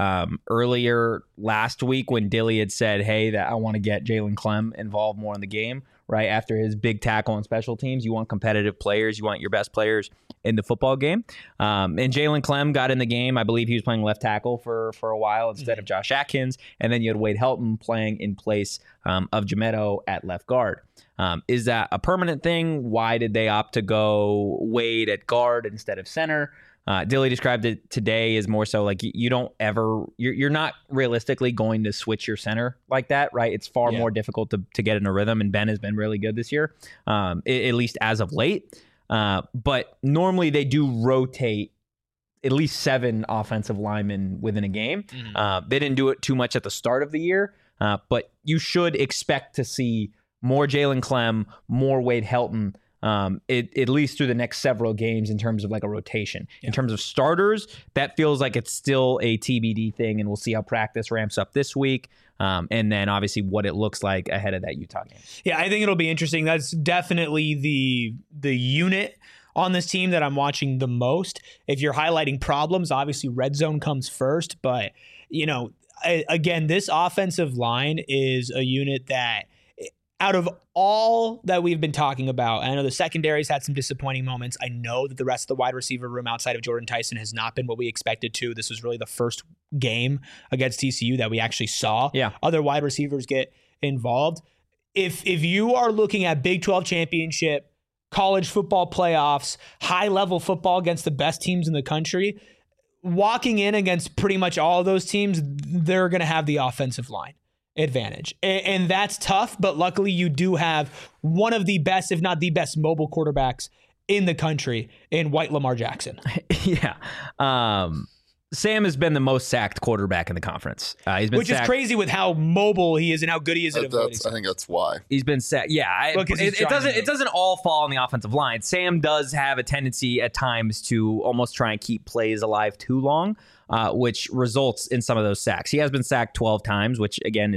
earlier last week when Dilly had said, hey, that I want to get Jalen Clem involved more in the game, right? After his big tackle on special teams, you want competitive players. You want your best players in the football game. And Jalen Clem got in the game. I believe he was playing left tackle for a while instead of Josh Atkins. And then you had Wade Helton playing in place of Jametto at left guard. Is that a permanent thing? Why did they opt to go Wade at guard instead of center? Dilly described it today as more so like you don't ever, you're not realistically going to switch your center like that, right? It's far more difficult to get in a rhythm, and Ben has been really good this year, at least as of late. But normally they do rotate at least 7 offensive linemen within a game. They didn't do it too much at the start of the year, but you should expect to see more Jalen Clem, more Wade Helton, at least through the next several games in terms of like a rotation. In terms of starters, that feels like it's still a TBD thing, and we'll see how practice ramps up this week. And then obviously what it looks like ahead of that Utah game. Yeah, I think it'll be interesting. That's definitely the unit on this team that I'm watching the most. If you're highlighting problems, obviously red zone comes first. But, again, this offensive line is a unit that, out of all that we've been talking about, I know the secondary's had some disappointing moments. I know that the rest of the wide receiver room outside of Jordan Tyson has not been what we expected to. This was really the first game against TCU that we actually saw other wide receivers get involved. If you are looking at Big 12 championship, college football playoffs, high-level football against the best teams in the country, walking in against pretty much all of those teams, they're going to have the offensive line advantage. And that's tough, but luckily you do have one of the best, if not the best, mobile quarterbacks in the country in White Lamar Jackson. Yeah. Sam has been the most sacked quarterback in the conference. He's been Which is crazy with how mobile he is and how good he is at avoiding. I think that's why. He's been sacked. Yeah. It doesn't all fall on the offensive line. Sam does have a tendency at times to almost try and keep plays alive too long, which results in some of those sacks. He has been sacked 12 times, which again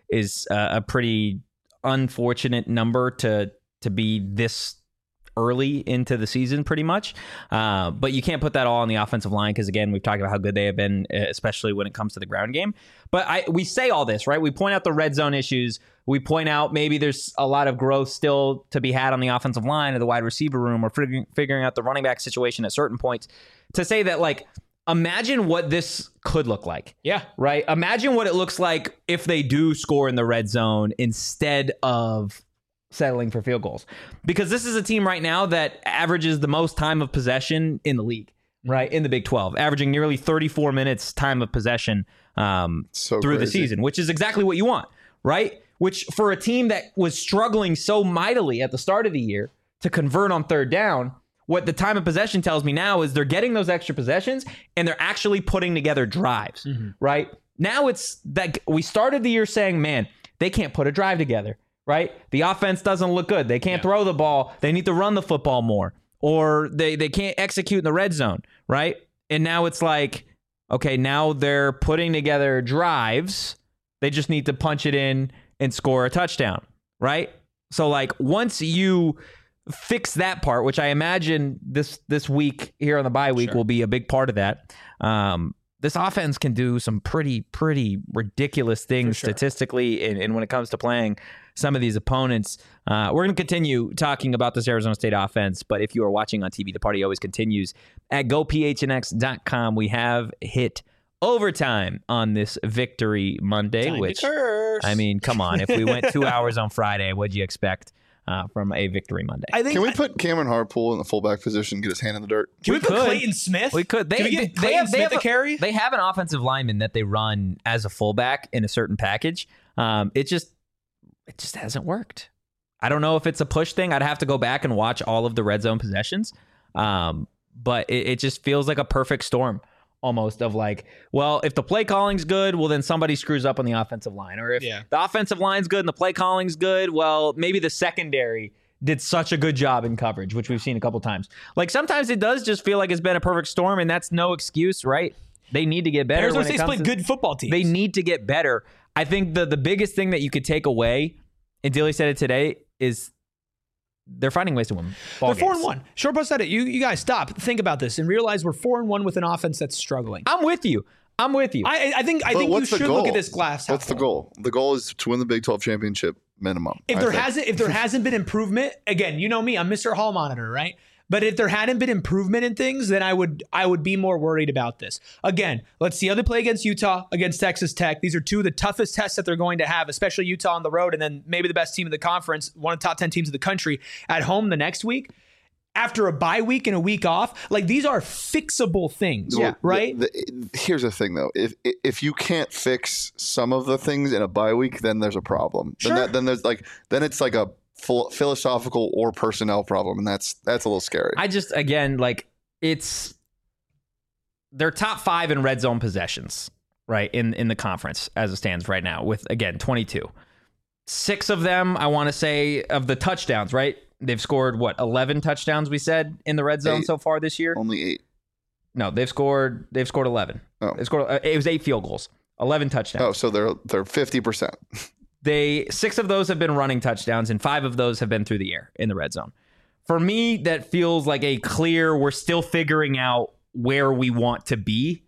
is a pretty unfortunate number to be this early into the season pretty much. But you can't put that all on the offensive line because, again, we've talked about how good they have been, especially when it comes to the ground game. But we say all this, right? We point out the red zone issues. We point out maybe there's a lot of growth still to be had on the offensive line or the wide receiver room, or figuring out the running back situation at certain points, to say that, like, imagine what this could look like. Yeah. Right? Imagine what it looks like if they do score in the red zone instead of settling for field goals, because this is a team right now that averages the most time of possession in the league, right? In the Big 12, averaging nearly 34 minutes time of possession through the season, which is exactly what you want, right? Which, for a team that was struggling so mightily at the start of the year to convert on third down, what the time of possession tells me now is they're getting those extra possessions and they're actually putting together drives, right? Now it's that we started the year saying, man, they can't put a drive together. Right? The offense doesn't look good. They can't throw the ball. They need to run the football more. Or they can't execute in the red zone, right? And now it's like, okay, now they're putting together drives. They just need to punch it in and score a touchdown, right? So, like, once you fix that part, which I imagine this week here on the bye week will be a big part of that, this offense can do some pretty ridiculous things statistically, and when it comes to playing some of these opponents. We're going to continue talking about this Arizona State offense, but if you are watching on TV, the party always continues. At GoPHNX.com, we have hit overtime on this Victory Monday, which, I mean, come on. If we went 2 hours on Friday, what'd you expect from a Victory Monday? Can we put Cameron Harpool in the fullback position, get his hand in the dirt? Can we put Clayton Smith? We could. Can we get Clayton Smith to carry? They have an offensive lineman that they run as a fullback in a certain package. It just hasn't worked. I don't know if it's a push thing. I'd have to go back and watch all of the red zone possessions. But it just feels like a perfect storm almost of like, well, if the play calling's good, well, then somebody screws up on the offensive line. Or if the offensive line's good and the play calling's good, well, maybe the secondary did such a good job in coverage, which we've seen a couple times. Like, sometimes it does just feel like it's been a perfect storm, and that's no excuse, right? They need to get better. Arizona when it State's comes played to- good football teams. They need to get better. I think the biggest thing that you could take away, and Dilly said it today, is they're finding ways to win ball They're games. 4-1. Short Post said it. You guys stop, think about this, and realize we're 4-1 with an offense that's struggling. I'm with you. I think you what's the should goal? look at this glass half What's the full. goal? The goal is to win the Big 12 championship minimum. If there hasn't been improvement, again, you know me, I'm Mr. Hall Monitor, right? But if there hadn't been improvement in things, then I would be more worried about this. Again, let's see how they play against Utah, against Texas Tech. These are two of the toughest tests that they're going to have, especially Utah on the road, and then maybe the best team in the conference, one of the top 10 teams of the country, at home the next week. After a bye week and a week off, like these are fixable things, right? Here's the thing, though. If you can't fix some of the things in a bye week, then there's a problem. Sure. Then it's like a philosophical or personnel problem, and that's a little scary. I just, again, they're top 5 in red zone possessions, right, in the conference as it stands right now with, again, 22. 6 of them, I want to say, of the touchdowns, right? They've scored, 11 touchdowns, we said, in the red zone 8. so far this year? Only 8. No, they've scored 11. Oh. They scored, it was 8 field goals, 11 touchdowns. Oh, so they're 50%. 6 of those have been running touchdowns, and 5 of those have been through the air in the red zone. For me, that feels like a clear, we're still figuring out where we want to be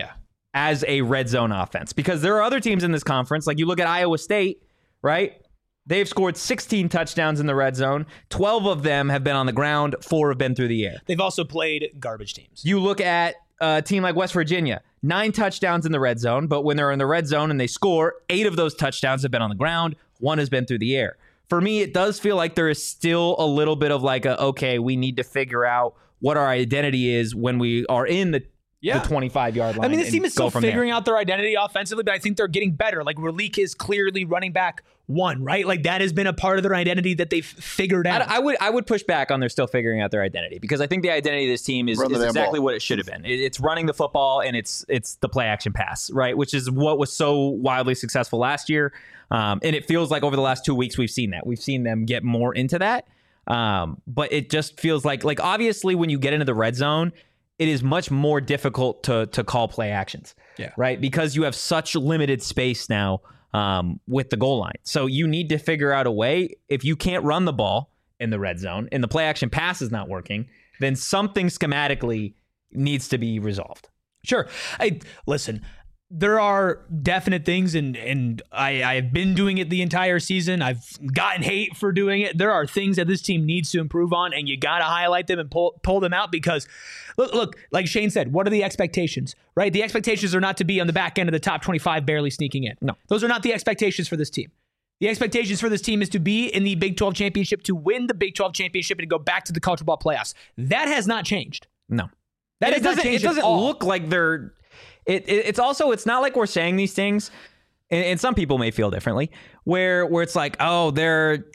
as a red zone offense. Because there are other teams in this conference, like you look at Iowa State, right? They've scored 16 touchdowns in the red zone. 12 of them have been on the ground. 4 have been through the air. They've also played garbage teams. You look at a team like West Virginia, 9 touchdowns in the red zone, but when they're in the red zone and they score, 8 of those touchdowns have been on the ground. 1 has been through the air. For me, it does feel like there is still a little bit of okay, we need to figure out what our identity is when we are in the 25-yard line. I mean, this team is still figuring out their identity offensively, but I think they're getting better. Like, Raleek is clearly running back 1, right? Like, that has been a part of their identity that they've figured out. I would push back on they're still figuring out their identity, because I think the identity of this team is exactly what it should have been. It's running the football, and it's the play action pass, right? Which is what was so wildly successful last year. And it feels like over the last 2 weeks we've seen that. We've seen them get more into that. But it just feels like obviously when you get into the red zone, it is much more difficult to call play actions, right? Because you have such limited space now with the goal line. So you need to figure out a way. If you can't run the ball in the red zone and the play action pass is not working, then something schematically needs to be resolved. Sure. Listen, there are definite things, and I've been doing it the entire season. I've gotten hate for doing it. There are things that this team needs to improve on, and you got to highlight them and pull them out, because look, like Shane said, what are the expectations, right? The expectations are not to be on the back end of the top 25 barely sneaking in. No, those are not the expectations for this team. The expectations for this team is to be in the Big 12 championship, to win the Big 12 championship, and to go back to the college football playoffs. That has not changed. No. That has not changed. It doesn't look like they're... It's also, it's not like we're saying these things, and some people may feel differently, where it's like, oh, they're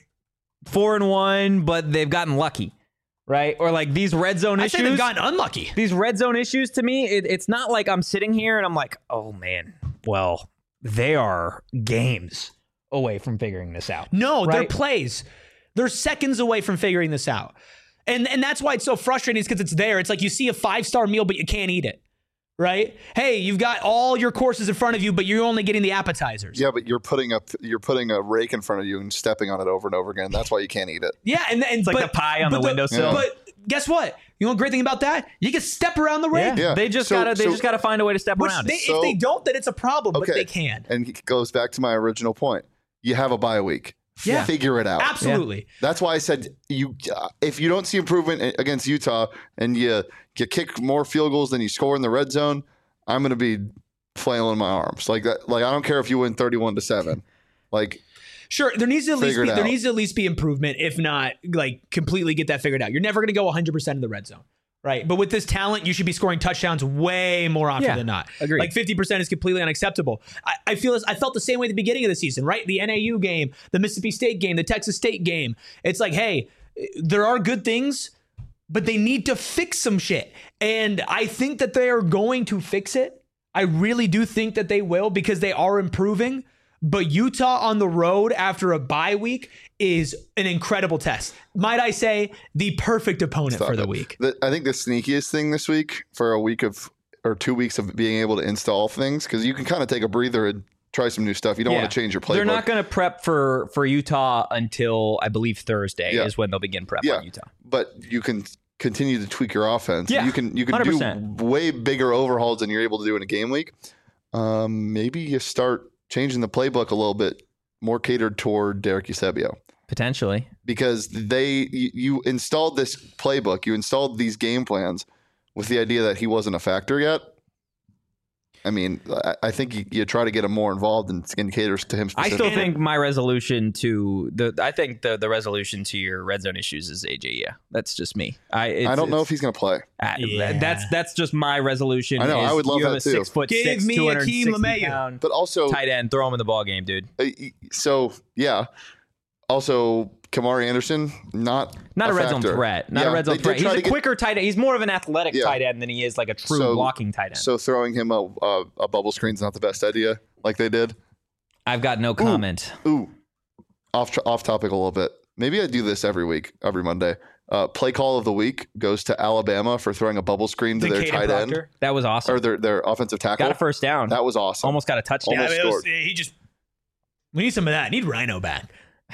4-1, but they've gotten lucky, right? Or like these red zone issues. I say they've gotten unlucky. These red zone issues, to me, it's not like I'm sitting here and I'm like, oh man, well, they are games away from figuring this out. No, right? they're plays. They're seconds away from figuring this out. And that's why it's so frustrating, is because it's there. It's like you see a 5-star meal, but you can't eat it. Right? Hey, you've got all your courses in front of you, but you're only getting the appetizers. Yeah, but you're putting a rake in front of you and stepping on it over and over again. That's why you can't eat it. Yeah, and it's like the pie on the windowsill. But guess what? You know the great thing about that? You can step around the rake. Yeah. They just gotta find a way to step around it. If they don't, then it's a problem. But they can. And it goes back to my original point. You have a bye week. Yeah. Figure it out. Absolutely. Yeah. That's why I said if you don't see improvement against Utah and you kick more field goals than you score in the red zone, I'm going to be flailing my arms like that. Like, I don't care if you win 31-7. Like, sure, there needs to at least be improvement, if not like completely get that figured out. You're never going to go 100% in the red zone, right? But with this talent, you should be scoring touchdowns way more often than not. Agreed. Like 50% is completely unacceptable. I felt the same way at the beginning of the season, right? The NAU game, the Mississippi State game, the Texas State game. It's like, hey, there are good things, but they need to fix some shit. And I think that they are going to fix it. I really do think that they will, because they are improving. But Utah on the road after a bye week is an incredible test. Might I say, the perfect opponent for the week. I think the sneakiest thing this week, for a week of or 2 weeks of being able to install things, because you can kind of take a breather and try some new stuff. You don't want to change your playbook. They're not going to prep for Utah until, I believe, Thursday is when they'll begin prep on Utah. But you can continue to tweak your offense. Yeah, you can 100%. do way bigger overhauls than you're able to do in a game week. Maybe you start changing the playbook a little bit more catered toward Derek Eusebio. Potentially. Because you installed this playbook, you installed these game plans with the idea that he wasn't a factor yet. I mean, I think you try to get him more involved and caters to him specifically. I still think my resolution to the resolution to your red zone issues is AJ. Yeah, that's just me. I don't know if he's going to play. That's just my resolution. I know. I would love that too. 6'6", Give me Akeem LeMayu, but also tight end. Throw him in the ball game, dude. So yeah. Also, Kamari Anderson, not a red factor. zone threat. Not a red zone threat. He's a quicker tight end. He's more of an athletic tight end than he is like a true blocking tight end. So throwing him a bubble screen is not the best idea, like they did. I've got no comment. Off topic a little bit. Maybe I do this every week, every Monday. Play call of the week goes to Alabama for throwing a bubble screen to their tight end. That was awesome. Or their offensive tackle. Got a first down. That was awesome. Almost got a touchdown. Almost scored. We need some of that. I need Rhino back.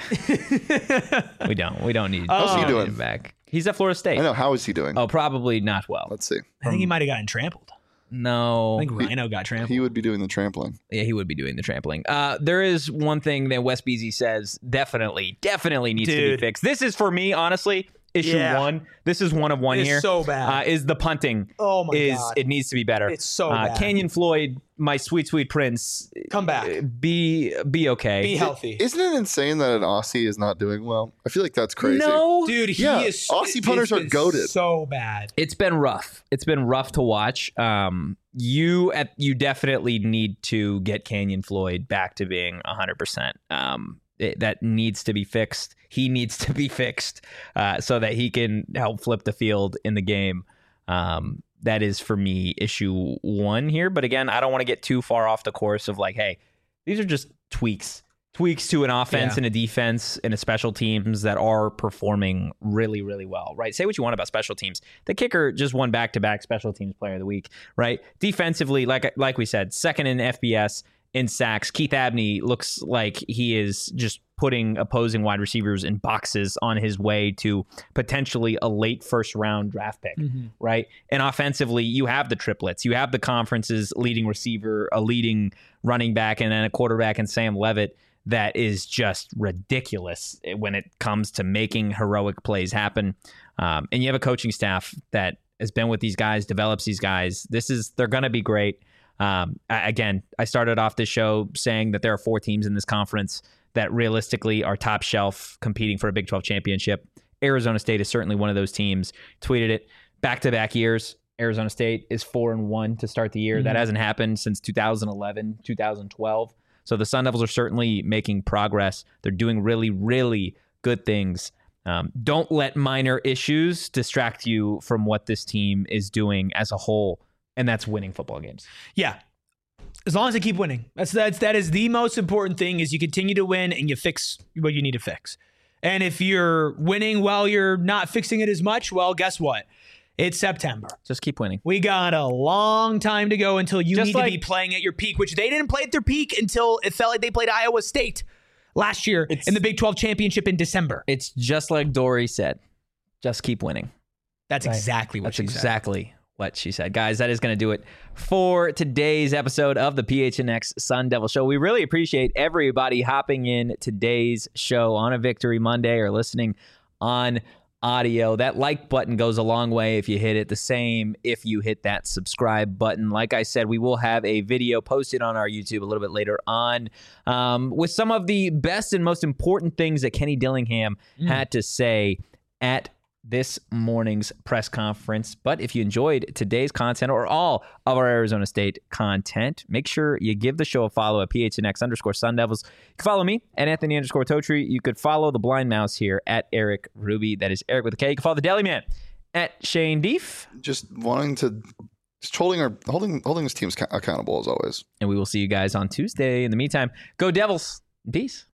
We don't need. How's he doing? Back. He's at Florida State. I know. How is he doing? Oh, probably not well. Let's see. I think he might have gotten trampled. No. I think Rhino got trampled. He would be doing the trampling. Yeah, he would be doing the trampling. There is one thing that Wes Beasy says definitely needs to be fixed. This is, for me, honestly, issue one. This is one of one here. It's so bad. Is the punting. Oh, my God. It needs to be better. It's so bad. Canyon Floyd, my sweet prince. Come back. Be okay. Be healthy. Isn't it insane that an Aussie is not doing well? I feel like that's crazy. No. Dude, he is. Aussie punters are goated. So bad. It's been rough. It's been rough to watch. You definitely need to get Canyon Floyd back to being 100%. That needs to be fixed. He needs to be fixed so that he can help flip the field in the game. That is, for me, issue one here. But again, I don't want to get too far off the course of like, hey, these are just tweaks to an offense and a defense and a special teams that are performing really, really well, right? Say what you want about special teams. The kicker just won back-to-back special teams player of the week, right? Defensively, like we said, second in FBS in sacks. Keith Abney looks like he is just putting opposing wide receivers in boxes on his way to potentially a late first round draft pick, right? And offensively, you have the triplets. You have the conference's leading receiver, a leading running back, and then a quarterback in Sam Levitt that is just ridiculous when it comes to making heroic plays happen. And you have a coaching staff that has been with these guys, develops these guys. They're going to be great. Again, I started off this show saying that there are 4 teams in this conference that realistically are top shelf competing for a Big 12 championship. Arizona State is certainly one of those teams. Tweeted it back-to-back years. Arizona State is 4-1 to start the year. That hasn't happened since 2011, 2012. So the Sun Devils are certainly making progress. They're doing really, really good things. Don't let minor issues distract you from what this team is doing as a whole, and that's winning football games. Yeah. As long as they keep winning. That is the most important thing, is you continue to win and you fix what you need to fix. And if you're winning while you're not fixing it as much, well, guess what? It's September. Just keep winning. We got a long time to go until you need to be playing at your peak, which they didn't play at their peak until it felt like they played Iowa State last year in the Big 12 championship in December. It's just like Dory said. Just keep winning. That's exactly what she said. That's exactly what she said. Guys, that is going to do it for today's episode of the PHNX Sun Devil Show. We really appreciate everybody hopping in today's show on a Victory Monday or listening on audio. That like button goes a long way if you hit it. The same if you hit that subscribe button. Like I said, we will have a video posted on our YouTube a little bit later on with some of the best and most important things that Kenny Dillingham had to say at this morning's press conference. But if you enjoyed today's content or all of our Arizona State content, make sure you give the show a follow at PHNX_Sun Devils. You can follow me at Anthony_Totri. You could follow the blind mouse here at Eric Ruby. That is Eric with a K. You can follow the Deli Man at Shane Deef. Just holding his teams accountable as always. And we will see you guys on Tuesday. In the meantime, go Devils. Peace.